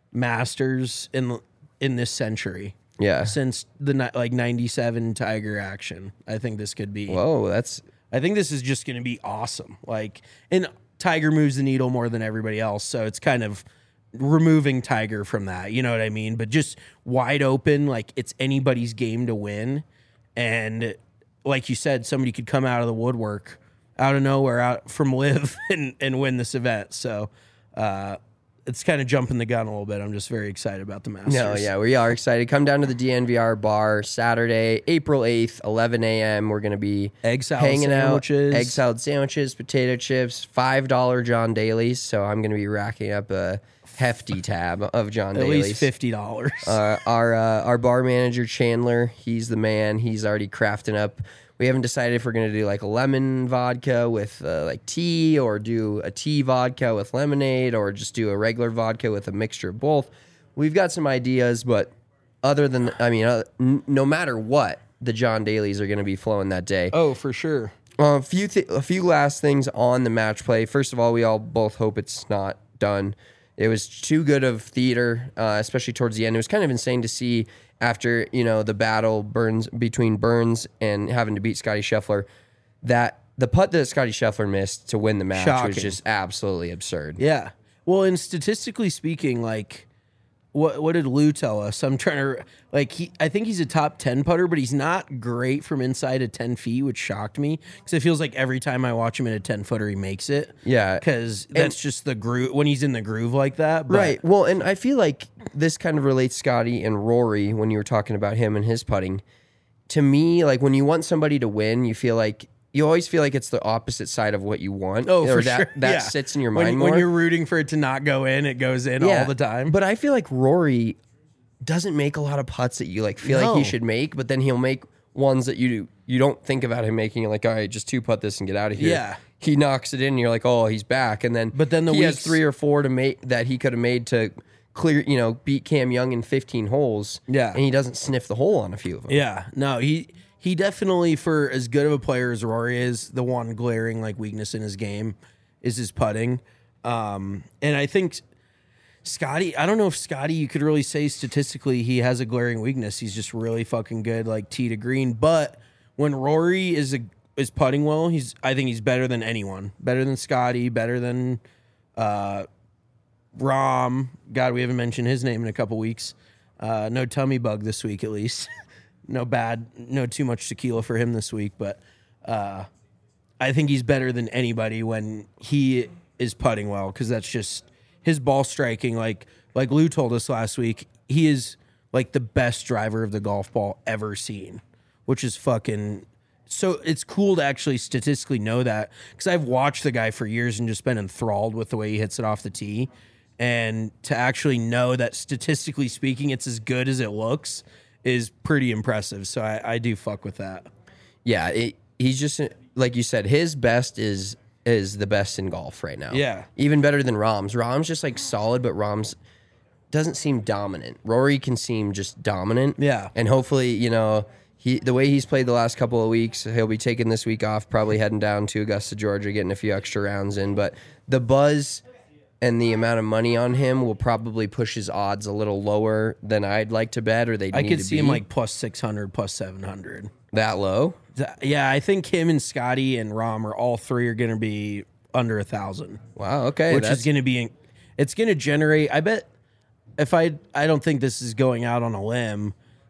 Masters in in this century. yeah. Since the ni- like ninety-seven Tiger action. I think this could be. Whoa, that's I think this is just going to be awesome. Like, and Tiger moves the needle more than everybody else, so it's kind of removing Tiger from that. You know what I mean? But just wide open, like it's anybody's game to win. And like you said, somebody could come out of the woodwork, out of nowhere, out from live and, and win this event. So uh, it's kind of jumping the gun a little bit. I'm just very excited about the Masters. No, yeah, we are excited. Come down to the D N V R bar Saturday, April eighth, eleven a.m. We're going to be Egg salad hanging sandwiches. out. Egg salad sandwiches, potato chips, five dollar John Daly's. So I'm going to be racking up a hefty tab of John At Daly's. least fifty dollars. Uh, our uh, our bar manager Chandler, he's the man. He's already crafting up. We haven't decided if we're gonna do like a lemon vodka with uh, like tea, or do a tea vodka with lemonade, or just do a regular vodka with a mixture of both. We've got some ideas, but other than I mean, uh, n- no matter what, the John Daly's are gonna be flowing that day. Oh, for sure. Uh, a few th- a few last things on the match play. First of all, we all both hope it's not done. It was too good of theater, uh, especially towards the end. It was kind of insane to see after, you know, the battle Burns between Burns and having to beat Scotty Scheffler, that the putt that Scotty Scheffler missed to win the match Shocking. was just absolutely absurd. Yeah. Well, and statistically speaking, like, what what did Lou tell us? I'm trying to, like, he. I think he's a top ten putter, but he's not great from inside of ten feet, which shocked me because it feels like every time I watch him in a ten footer, he makes it. Yeah. Because that's just the groove when he's in the groove like that. But Right. Well, and I feel like this kind of relates Scotty and Rory when you were talking about him and his putting. To me, like when you want somebody to win, you feel like you always feel like it's the opposite side of what you want. Oh, or for that, sure. That Yeah. sits in your when, mind more. when you're rooting for it to not go in, it goes in all the time. But I feel like Rory doesn't make a lot of putts that you like feel like No. he should make, but then he'll make ones that you you don't think about him making. You're like, all right, just two putt this and get out of here. Yeah. He knocks it in, and you're like, oh, he's back. And then But then the he has weeks- three or four to make that he could have made to clear, you know, beat Cam Young in fifteen holes. Yeah. And he doesn't sniff the hole on a few of them. Yeah, no, he he definitely, for as good of a player as Rory is, the one glaring like weakness in his game is his putting. Um, and I think Scotty, I don't know if Scotty, you could really say statistically he has a glaring weakness. He's just really fucking good, like tee to green. But when Rory is a, is putting well, he's I think he's better than anyone. Better than Scotty. Better than uh, Rom. God, we haven't mentioned his name in a couple weeks. Uh, no tummy bug this week, at least. No bad, no too much tequila for him this week, but uh, I think he's better than anybody when he is putting well, because that's just his ball striking. Like like Lou told us last week, he is like the best driver of the golf ball ever seen, which is fucking. So it's cool to actually statistically know that, because I've watched the guy for years and just been enthralled with the way he hits it off the tee, and to actually know that statistically speaking, it's as good as it looks is pretty impressive. So I, I do fuck with that. Yeah. It, he's just, like you said, his best is is the best in golf right now. Yeah. Even better than Rom's. Rom's just like solid, but Rom's doesn't seem dominant. Rory can seem just dominant. Yeah. And hopefully, you know, he the way he's played the last couple of weeks, he'll be taking this week off, probably heading down to Augusta, Georgia, getting a few extra rounds in. But the buzz and the amount of money on him will probably push his odds a little lower than I'd like to bet, or they I need could to see be. him like plus six hundred, plus seven hundred. That low. Th- Yeah, I think him and Scotty and Rom are all three are going to be under a thousand. Wow. Okay. which that's, is going to be, it's going to generate. I bet if I, I don't think this is going out on a limb.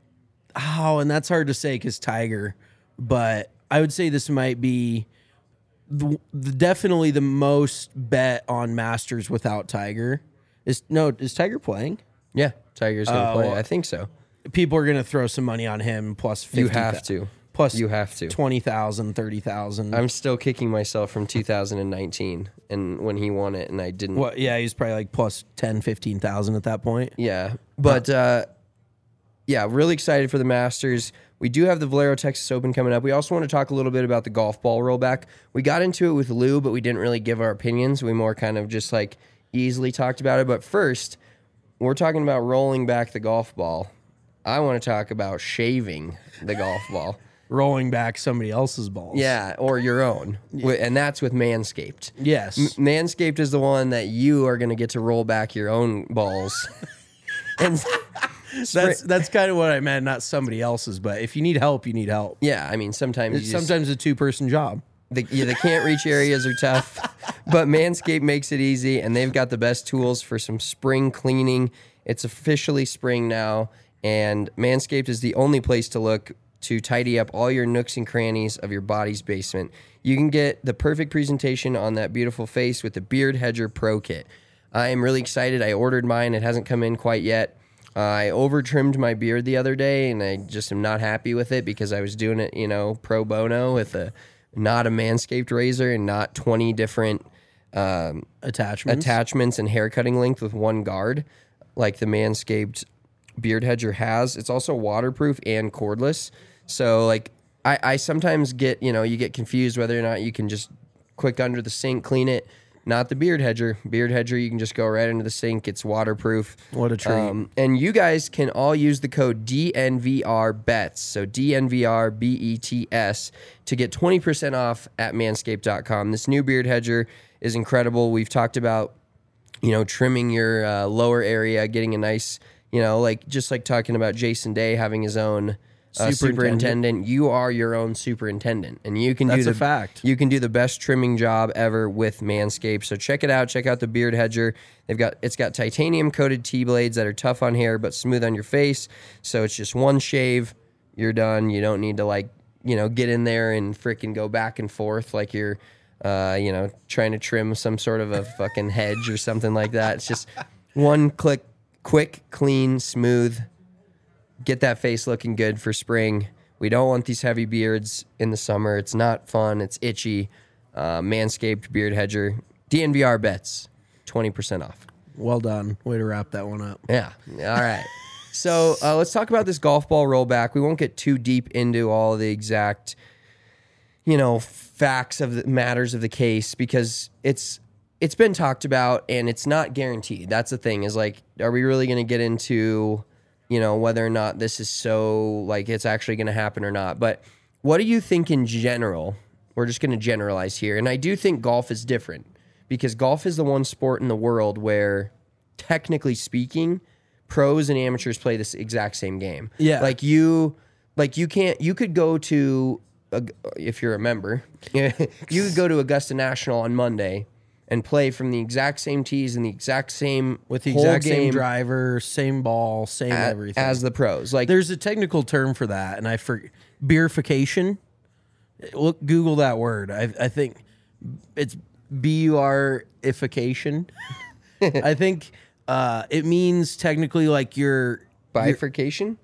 Oh, and that's hard to say because Tiger, but I would say this might be the, the, definitely the most bet on Masters without Tiger. Is no, is Tiger playing? Yeah. Tiger's going to Oh, play. well, I think so. People are going to throw some money on him plus fifty. You have to. Plus You have to. twenty thousand, thirty thousand. I'm still kicking myself from two thousand nineteen and when he won it and I didn't. What? Yeah, he's probably like plus ten, fifteen thousand at that point. Yeah. But uh, yeah, really excited for the Masters. We do have the Valero Texas Open coming up. We also want to talk a little bit about the golf ball rollback. We got into it with Lou, but we didn't really give our opinions. We more kind of just like easily talked about it. But first, we're talking about rolling back the golf ball. I want to talk about shaving the golf ball. Rolling back somebody else's balls. Yeah, or your own. Wi- And that's with Manscaped. Yes. M- Manscaped is the one that you are going to get to roll back your own balls. and That's that's kind of what I meant, not somebody else's. But if you need help, you need help. yeah, I mean, sometimes you It's just, sometimes a two person job. the, yeah, the can't reach areas are tough, but Manscaped makes it easy, and they've got the best tools for some spring cleaning. It's officially spring now, and Manscaped is the only place to look to tidy up all your nooks and crannies of your body's basement. You can get the perfect presentation on that beautiful face with the Beard Hedger Pro Kit. I am really excited. I ordered mine. It hasn't come in quite yet. Uh, I over trimmed my beard the other day, and I just am not happy with it because I was doing it, you know, pro bono with a not a Manscaped razor and not twenty different um, Attachments. attachments and hair cutting length with one guard, like the Manscaped beard hedger has. It's also waterproof and cordless. So like I, I sometimes get, you know, you get confused whether or not you can just quick under the sink, clean it. Not the beard hedger. Beard hedger, you can just go right into the sink. It's waterproof. What a treat. Um, and you guys can all use the code D N V R B E T S, so D N V R B E T S, to get twenty percent off at manscaped dot com. This new beard hedger is incredible. We've talked about, you know, trimming your uh, lower area, getting a nice, you know, like just like talking about Jason Day having his own Uh, Superintendent. superintendent. You are your own superintendent, and you can That's do a the fact. You can do the best trimming job ever with Manscaped. So check it out. Check out the beard hedger. They've got it's got titanium coated T blades that are tough on hair but smooth on your face. So it's just one shave, you're done. You don't need to like you know get in there and freaking go back and forth like you're uh, you know trying to trim some sort of a fucking hedge or something like that. It's just one click, quick, clean, smooth. Get that face looking good for spring. We don't want these heavy beards in the summer. It's not fun. It's itchy. Uh, Manscaped beard hedger. D N V R bets. twenty percent off. Well done. Way to wrap that one up. Yeah. All right. So uh, let's talk about this golf ball rollback. We won't get too deep into all the exact, you know, facts of the matters of the case because it's it's been talked about and it's not guaranteed. That's the thing is like, are we really going to get into you know, whether or not this is so, like, it's actually going to happen or not. But what do you think in general? We're just going to generalize here. And I do think golf is different because golf is the one sport in the world where, technically speaking, pros and amateurs play this exact same game. Yeah. Like, you, like, you can't, you could go to, a, if you're a member, you could go to Augusta National on Monday and play from the exact same tees and the exact same With the whole exact game same driver, same ball, same a- everything. as the pros. Like There's a technical term for that, and I forget. Beerification. Look, Google that word. I, I think it's B U R ification. I think uh, it means technically like you're bifurcation,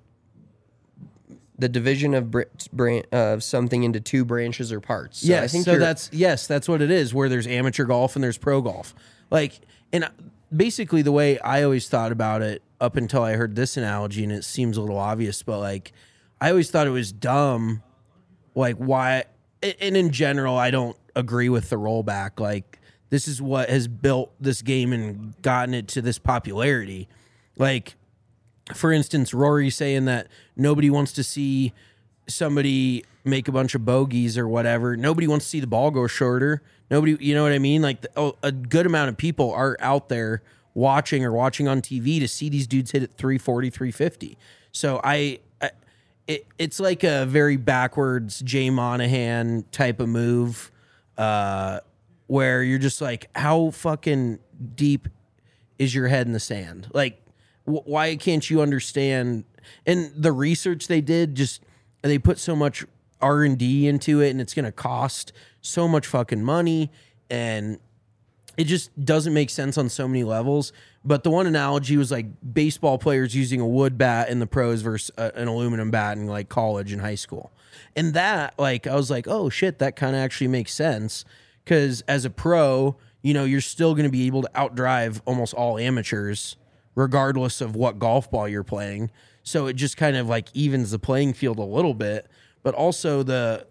the division of br- bran- of something into two branches or parts. So yes, I think so you're- that's yes, that's what it is. Where there's amateur golf and there's pro golf. Like, and basically the way I always thought about it up until I heard this analogy, and it seems a little obvious, but like I always thought it was dumb. Like why? And in general, I don't agree with the rollback. Like this is what has built this game and gotten it to this popularity. Like, for instance, Rory saying that nobody wants to see somebody make a bunch of bogeys or whatever. Nobody wants to see the ball go shorter. Nobody, you know what I mean? Like the, oh, a good amount of people are out there watching or watching on T V to see these dudes hit at three forty, three fifty. So I, I it, it's like a very backwards Jay Monahan type of move uh, where you're just like, how fucking deep is your head in the sand? Like, why can't you understand? And the research they did, just they put so much R and D into it, and it's going to cost so much fucking money, and it just doesn't make sense on so many levels. But the one analogy was like baseball players using a wood bat in the pros versus a, an aluminum bat in like college and high school. And that, like, I was like, oh shit, that kind of actually makes sense, because as a pro, you know, you're still going to be able to outdrive almost all amateurs regardless of what golf ball you're playing. So it just kind of like evens the playing field a little bit, but also the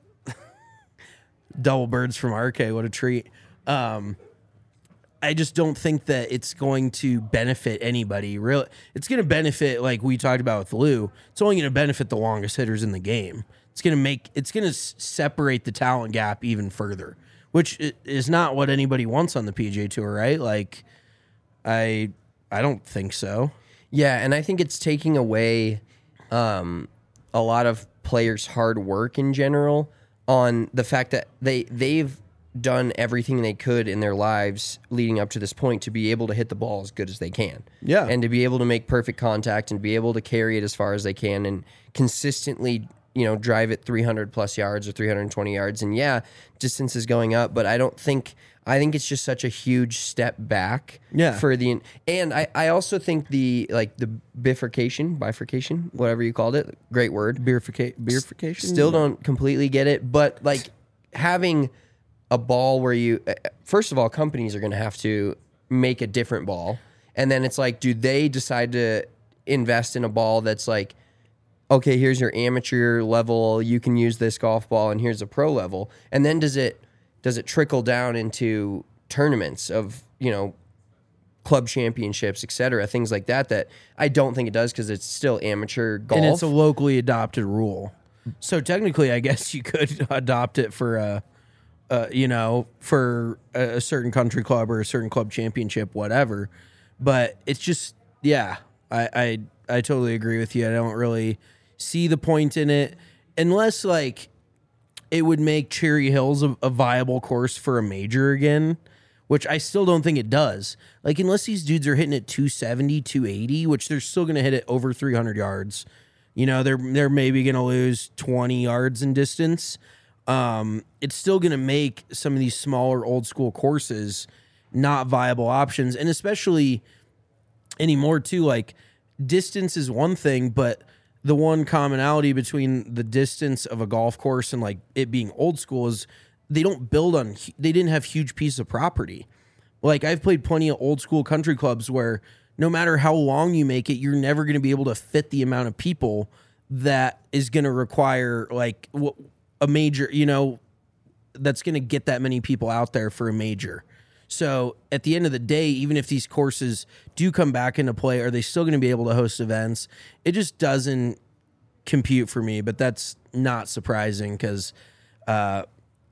double birds from R K, what a treat. Um, I just don't think that it's going to benefit anybody. Really, it's going to benefit, like we talked about with Lou, it's only going to benefit the longest hitters in the game. It's going to make, it's going to s- separate the talent gap even further, which is not what anybody wants on the P G A Tour, right? Like, I... I don't think so. Yeah, and I think it's taking away um, a lot of players' hard work in general on the fact that they they've done everything they could in their lives leading up to this point to be able to hit the ball as good as they can. Yeah. And to be able to make perfect contact and be able to carry it as far as they can and consistently you know, drive it three hundred plus yards or three hundred twenty yards. And yeah, distance is going up, but I don't think, I think it's just such a huge step back Yeah. for the, and I, I also think the, like the bifurcation, bifurcation, whatever you called it, great word. Beerifica- beerification? Still don't completely get it, but like having a ball where you, first of all, companies are going to have to make a different ball. And then it's like, do they decide to invest in a ball that's like, okay, here's your amateur level, you can use this golf ball, and here's a pro level. And then does it does it trickle down into tournaments of, you know, club championships, et cetera, things like that, that I don't think it does because it's still amateur golf. And it's a locally adopted rule. So technically, I guess you could adopt it for a, uh, you know, for a, a certain country club or a certain club championship, whatever. But it's just, yeah, I, I, I totally agree with you. I don't really see the point in it unless like it would make Cherry Hills a, a viable course for a major again, which I still don't think it does. Like, unless these dudes are hitting it two seventy, two eighty, which they're still going to hit it over three hundred yards. You know, they're they're maybe going to lose twenty yards in distance. Um, it's still going to make some of these smaller old school courses not viable options. And especially anymore too, like distance is one thing, but the one commonality between the distance of a golf course and like it being old school is they don't build on, they didn't have huge pieces of property. Like I've played plenty of old school country clubs where no matter how long you make it, you're never going to be able to fit the amount of people that is going to require like a major, you know, that's going to get that many people out there for a major. So at the end of the day, even if these courses do come back into play, are they still going to be able to host events? It just doesn't compute for me, but that's not surprising because uh,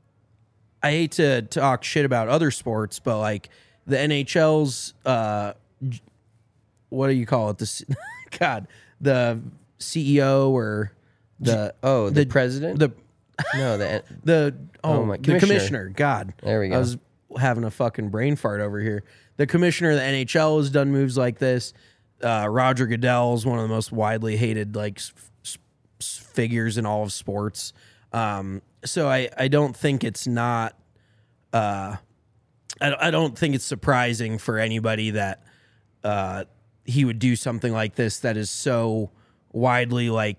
I hate to talk shit about other sports, but like the N H L's, uh, what do you call it? The God, the C E O or the oh the, the president, the no the the oh, oh my the commissioner. commissioner. God, there we go. I was having a fucking brain fart over here. The commissioner of the N H L has done moves like this. Uh, Roger Goodell is one of the most widely hated like s- s- figures in all of sports. Um, so I, I don't think it's not. Uh, I, I don't think it's surprising for anybody that uh, he would do something like this that is so widely like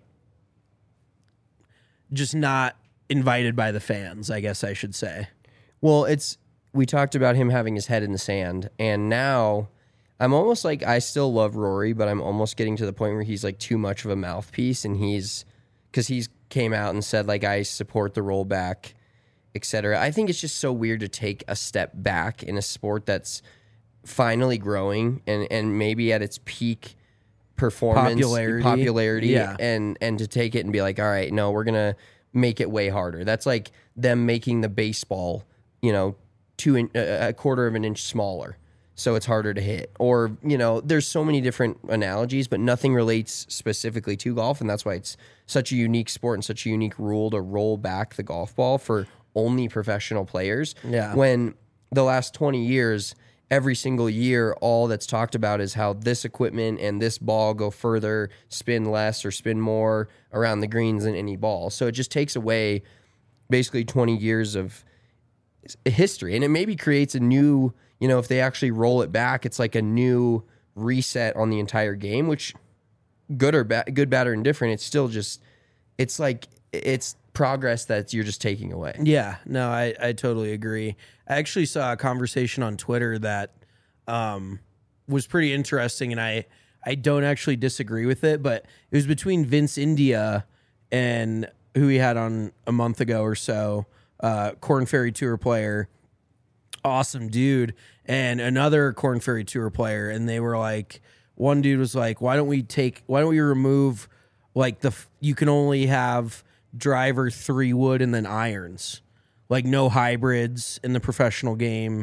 just not invited by the fans, I guess I should say. Well, it's we talked about him having his head in the sand, and now I'm almost like I still love Rory, but I'm almost getting to the point where he's like too much of a mouthpiece, and he's because he's came out and said like I support the rollback, et cetera. I think it's just so weird to take a step back in a sport that's finally growing and and maybe at its peak performance Popularity. popularity Yeah. and and to take it and be like, all right, no, we're gonna make it way harder. That's like them making the baseball, you know, two in, uh, a quarter of an inch smaller, so it's harder to hit. Or you know, there's so many different analogies, but nothing relates specifically to golf, and that's why it's such a unique sport and such a unique rule to roll back the golf ball for only professional players. Yeah. When the last twenty years, every single year, all that's talked about is how this equipment and this ball go further, spin less or spin more around the greens than any ball. So it just takes away basically twenty years of history. And it maybe creates a new, you know, if they actually roll it back, it's like a new reset on the entire game, which good or bad, good, bad, or indifferent, it's still just, it's like, it's progress that you're just taking away. Yeah, no, I, I totally agree. I actually saw a conversation on Twitter that um, was pretty interesting, and I, I don't actually disagree with it, but it was between Vince India and who he had on a month ago or so, uh, Korn Ferry Tour player, awesome dude, and another Korn Ferry Tour player, and they were like, one dude was like, why don't we take, why don't we remove, like, the you can only have driver, three wood, and then irons, like no hybrids in the professional game,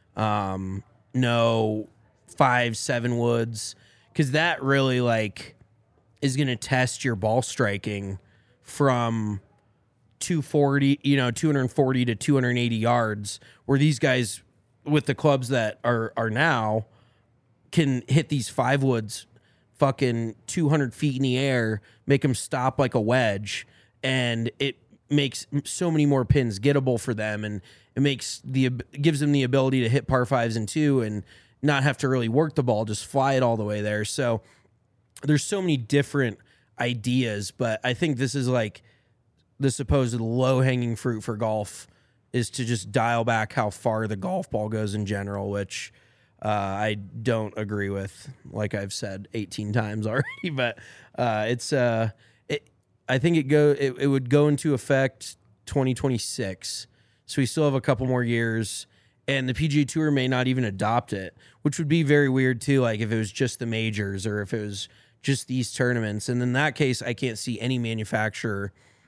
um, no five, seven woods, because that really like is going to test your ball striking from two forty, you know, two forty to two eighty yards, where these guys with the clubs that are are now can hit these five woods fucking two hundred feet in the air, make them stop like a wedge. and it makes so many more pins gettable for them, and it makes the gives them the ability to hit par fives and two and not have to really work the ball, just fly it all the way there. So there's so many different ideas, but I think this is like the supposed low hanging fruit for golf is to just dial back how far the golf ball goes in general, which uh, I don't agree with, like I've said eighteen times already. But uh, it's uh, it, I think it go it, it would go into effect twenty twenty-six, so we still have a couple more years, and the P G A Tour may not even adopt it, which would be very weird too. Like if it was just the majors or if it was just these tournaments, and in that case, I can't see any manufacturer.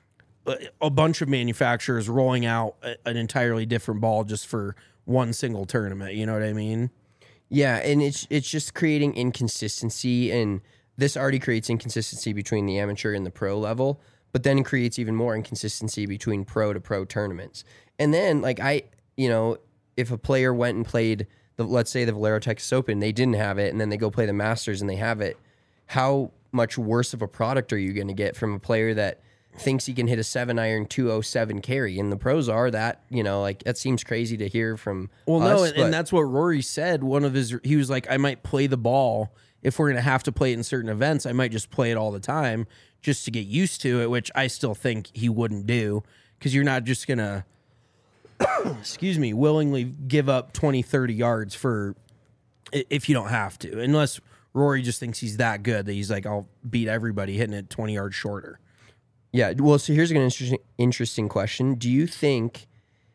A bunch of manufacturers rolling out an entirely different ball just for one single tournament. You know what I mean? Yeah, and it's it's just creating inconsistency, and this already creates inconsistency between the amateur and the pro level, but then it creates even more inconsistency between pro to pro tournaments. And then, like I, you know, if a player went and played the, let's say the Valero Texas Open, they didn't have it, and then they go play the Masters and they have it, how much worse of a product are you going to get from a player that thinks he can hit a seven iron two oh seven carry? And the pros are that, you know, like that seems crazy to hear from well us, no and, and that's what Rory said. One of his, he was like, I might play the ball if we're gonna have to play it in certain events. I might just play it all the time just to get used to it, which I still think he wouldn't do, because you're not just gonna excuse me willingly give up twenty thirty yards for if you don't have to, unless Rory just thinks he's that good that he's like, I'll beat everybody hitting it twenty yards shorter. Yeah, well, so here's an interesting interesting question. Do you think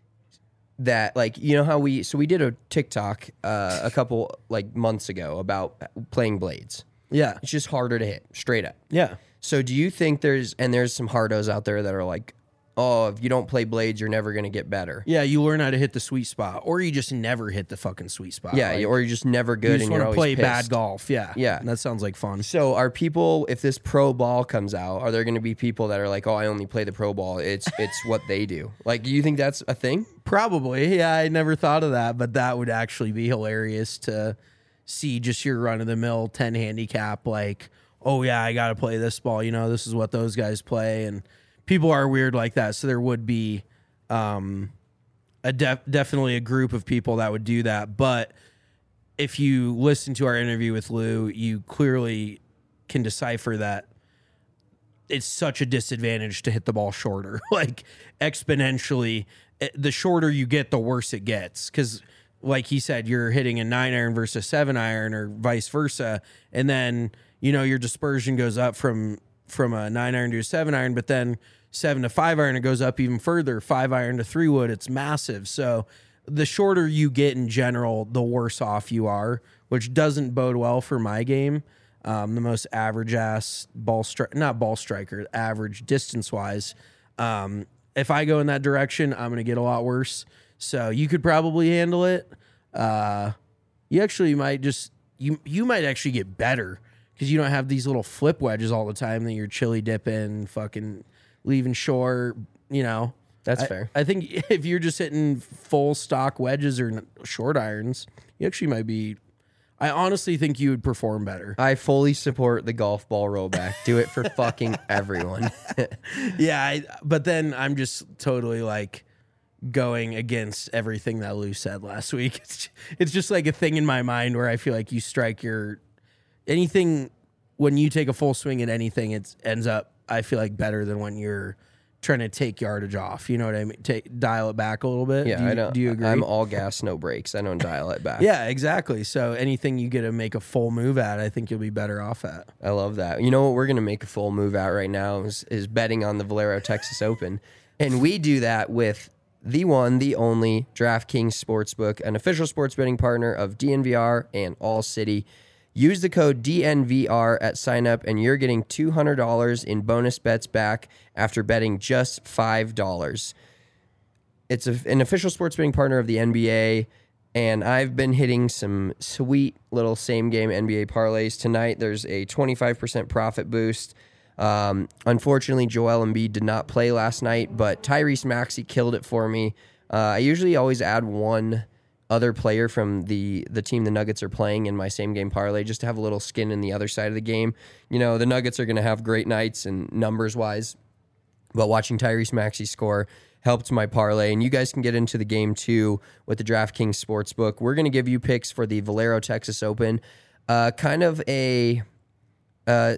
that, like, you know how we, so we did a TikTok uh, a couple, like, months ago about playing blades. Yeah. It's just harder to hit, straight up. Yeah. So do you think there's, and there's some hardos out there that are like, oh, if you don't play blades, you're never going to get better. Yeah, you learn how to hit the sweet spot, or you just never hit the fucking sweet spot. Yeah, like, or you're just never good you just and want you're to always play pissed. bad golf. Yeah. Yeah. That sounds like fun. So are people, if this pro ball comes out, are there going to be people that are like, oh, I only play the pro ball? It's it's what they do. Like, do you think that's a thing? Probably. Yeah, I never thought of that, but that would actually be hilarious to see just your run-of-the-mill ten handicap, like, oh, yeah, I got to play this ball. You know, this is what those guys play, and people are weird like that, so there would be um, a def- definitely a group of people that would do that. But if you listen to our interview with Lou, you clearly can decipher that it's such a disadvantage to hit the ball shorter, like exponentially. The shorter you get, the worse it gets, because like he said, you're hitting a nine iron versus a seven iron or vice versa, and then you know your dispersion goes up from from a nine iron to a seven iron, but then seven to five iron, it goes up even further. Five iron to three wood, it's massive. So the shorter you get in general, the worse off you are, which doesn't bode well for my game. Um, the most average ass ball strike, not ball striker, average distance wise. Um, if I go in that direction, I'm going to get a lot worse. So you could probably handle it. Uh, you actually might just, you, you might actually get better, because you don't have these little flip wedges all the time that you're chili dipping, fucking leaving short, you know. That's I, fair. I think if you're just hitting full stock wedges or short irons, you actually might be, I honestly think you would perform better. I fully support the golf ball rollback. Do it for fucking everyone. Yeah, I, but then I'm just totally like going against everything that Lou said last week. It's, it's just like a thing in my mind where I feel like you strike your, anything, when you take a full swing at anything, it ends up, I feel like, better than when you're trying to take yardage off. You know what I mean? Take, dial it back a little bit. Yeah, do you, I don't. Do you agree? I'm all gas, no brakes. I don't dial it back. Yeah, exactly. So anything you get to make a full move at, I think you'll be better off at. I love that. You know what we're going to make a full move at right now is, is betting on the Valero Texas Open. And we do that with the one, the only DraftKings Sportsbook, an official sports betting partner of D N V R and All City. Use the code D N V R at sign up, and you're getting two hundred dollars in bonus bets back after betting just five dollars. It's a, an official sports betting partner of the N B A, and I've been hitting some sweet little same-game N B A parlays. Tonight, there's a twenty-five percent profit boost. Um, unfortunately, Joel Embiid did not play last night, but Tyrese Maxey killed it for me. Uh, I usually always add one other player from the the team the Nuggets are playing in my same game parlay just to have a little skin in the other side of the game. You know, the Nuggets are going to have great nights and numbers wise. but watching Tyrese Maxey score helped my parlay. And you guys can get into the game too with the DraftKings Sportsbook. We're going to give you picks for the Valero Texas Open, uh, kind of a uh,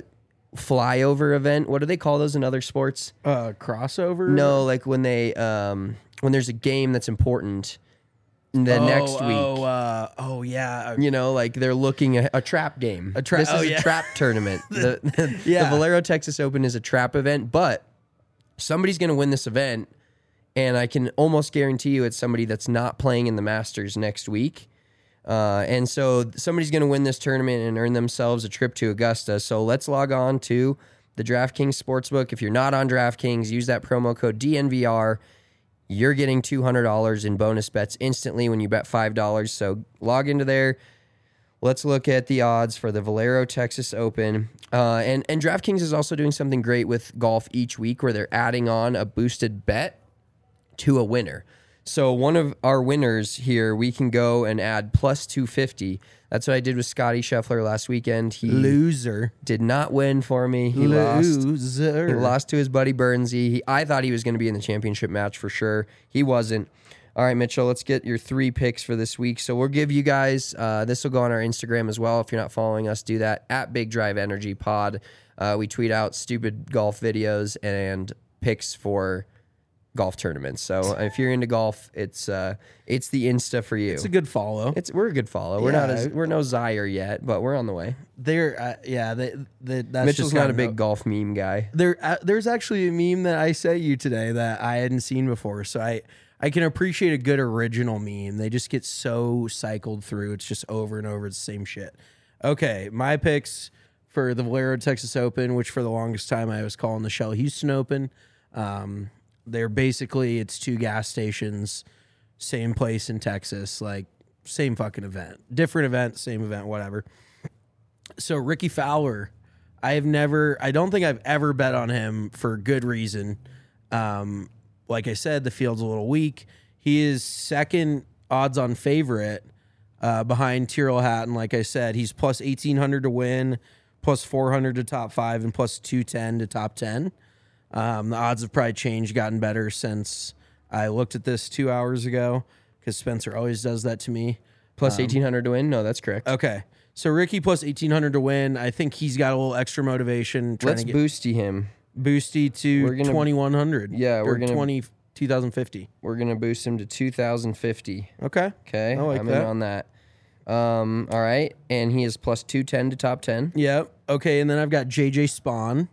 flyover event. What do they call those in other sports? Uh, crossover? No, like when they um, when there's a game that's important the oh, next week. Oh, uh, oh yeah. You know, like they're looking at a trap game. A tra- this is oh, a yeah. trap tournament. The, the, Yeah. the Valero Texas Open is a trap event, but somebody's going to win this event, and I can almost guarantee you it's somebody that's not playing in the Masters next week. Uh, and so somebody's going to win this tournament and earn themselves a trip to Augusta. So let's log on to the DraftKings Sportsbook. If you're not on DraftKings, use that promo code D N V R. You're getting two hundred dollars in bonus bets instantly when you bet five dollars. So log into there. Let's look at the odds for the Valero Texas Open. Uh, and, and DraftKings is also doing something great with golf each week where they're adding on a boosted bet to a winner. So one of our winners here, we can go and add plus two fifty. That's what I did with Scotty Scheffler last weekend. He Loser. did not win for me. He lost. Loser. He lost to his buddy Burnsy. He, I thought he was going to be in the championship match for sure. He wasn't. All right, Mitchell, let's get your three picks for this week. So we'll give you guys, uh, this will go on our Instagram as well. If you're not following us, do that at Big Drive Energy Pod. Uh, we tweet out stupid golf videos and picks for golf tournaments. So if you're into golf, it's uh, it's the Insta for you. It's a good follow. It's we're a good follow. We're not Yeah. as we're no Zaire yet, but we're on the way. They're uh, yeah. They, they, that's Mitchell's just not a kinda- big golf meme guy. There, uh, there's actually a meme that I sent you today that I hadn't seen before. So I, I can appreciate a good original meme. They just get so cycled through. It's just over and over the same shit. Okay, my picks for the Valero Texas Open, which for the longest time I was calling the Shell Houston Open. Um, they're basically it's two gas stations, same place in Texas, like same fucking event, different event, same event, whatever. So Ricky Fowler. I have never, I don't think I've ever bet on him for good reason. Um, like I said, the field's a little weak. He is second odds on favorite uh, behind Tyrrell Hatton. Like I said, he's plus eighteen hundred to win, plus four hundred to top five, and plus two ten to top ten. Um, the odds have probably changed, gotten better since I looked at this two hours ago because Spencer always does that to me. Plus eighteen hundred to win? No, that's correct. Okay. So Ricky plus eighteen hundred to win. I think he's got a little extra motivation. Trying Let's to get boosty him. Boosty to We're gonna- twenty-one hundred. Yeah, we're or gonna- twenty, two thousand fifty. We're going to boost him to two thousand fifty. Okay. Okay? I like I'm that. in on that. Um, all right. And he is plus two ten to top ten. Yep. Okay, and then I've got J J Spawn.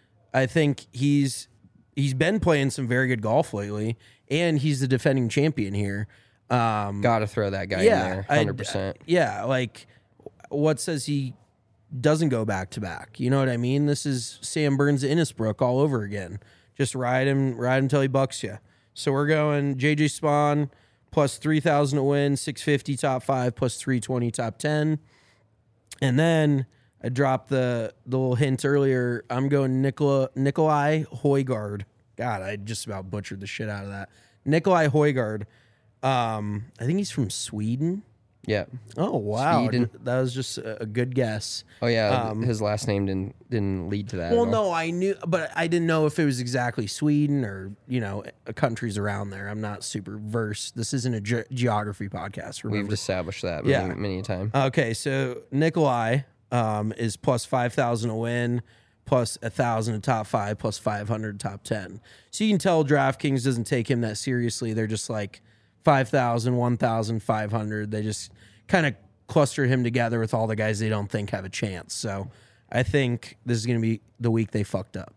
I think he's he's been playing some very good golf lately, and he's the defending champion here. Um, Got to throw that guy yeah, in there. I- one hundred percent. yeah, like what says he doesn't go back to back? You know what I mean? This is Sam Burns Innisbrook all over again. Just ride him, ride him till he bucks you. So we're going J J Spawn plus three thousand to win, six fifty top five, plus three twenty top ten. And then I dropped the, the little hint earlier. I'm going Nicola, Nikolai Højgaard. God, I just about butchered the shit out of that. Nikolai Højgaard. Um, I think he's from Sweden. Yeah. Oh wow, Sweden. that was just a a good guess. Oh, yeah. Um, his last name didn't didn't lead to that. Well, at all. no, I knew, but I didn't know if it was exactly Sweden or you know countries around there. I'm not super versed. This isn't a ge- geography podcast. Remember? We've established that Yeah. many, many a time. Okay, so Nikolai um, is plus five thousand to win, plus a thousand to top five, plus five hundred top ten. So you can tell DraftKings doesn't take him that seriously. They're just like five thousand, one thousand, five hundred. They just kind of cluster him together with all the guys they don't think have a chance. So I think this is going to be the week they fucked up.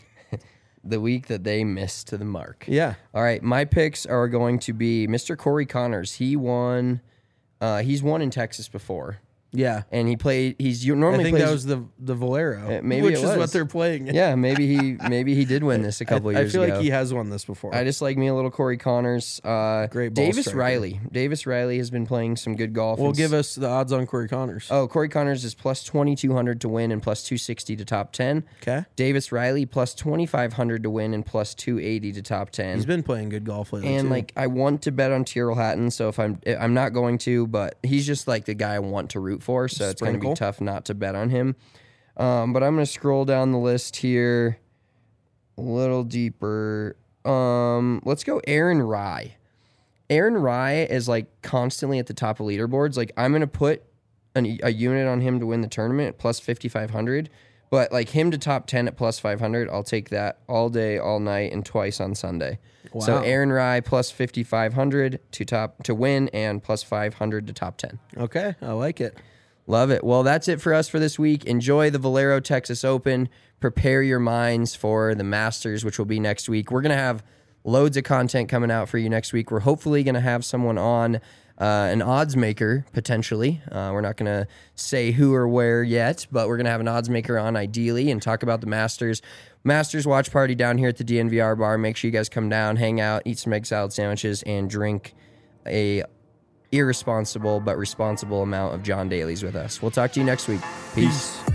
The week that they missed to the mark. Yeah. All right, my picks are going to be Mister Corey Connors. He won. Uh, he's won in Texas before, Yeah. and he played. He's you I normally think plays. that was the the Valero, Uh, maybe which it is what was. they're playing. yeah, maybe he maybe he did win this a couple I, years I feel ago. like he has won this before. I just like me a little Corey Connors. Uh, Great ball Davis striker. Riley. Davis Riley has been playing some good golf. Well, and give s- us the odds on Corey Connors. Oh, Corey Connors is plus twenty-two hundred to win and plus two sixty to top ten. Okay. Davis Riley plus twenty-five hundred to win and plus two eighty to top ten. He's been playing good golf lately. And too. like I want to bet on Tyrrell Hatton, so if I'm I'm not going to, but he's just like the guy I want to root for, so it's going to be Sprinkle. tough not to bet on him. Um, but I'm going to scroll down the list here. a little deeper. Um, let's go Aaron Rye. Aaron Rye is like constantly at the top of leaderboards. Like I'm gonna put an, a unit on him to win the tournament at plus fifty-five hundred, but like him to top ten at plus five hundred, I'll take that all day, all night, and twice on Sunday. Wow. So Aaron Rye plus fifty-five hundred to top to win and plus five hundred to top ten. Okay, I like it. Love it. Well, that's it for us for this week. Enjoy the Valero Texas Open. Prepare your minds for the Masters, which will be next week. We're going to have loads of content coming out for you next week. We're hopefully going to have someone on, uh, an odds maker, potentially. Uh, we're not going to say who or where yet, but we're going to have an odds maker on ideally and talk about the Masters. Masters watch party down here at the D N V R bar. Make sure you guys come down, hang out, eat some egg salad sandwiches, and drink a irresponsible but responsible amount of John Daly's with us. We'll talk to you next week. Peace. Peace.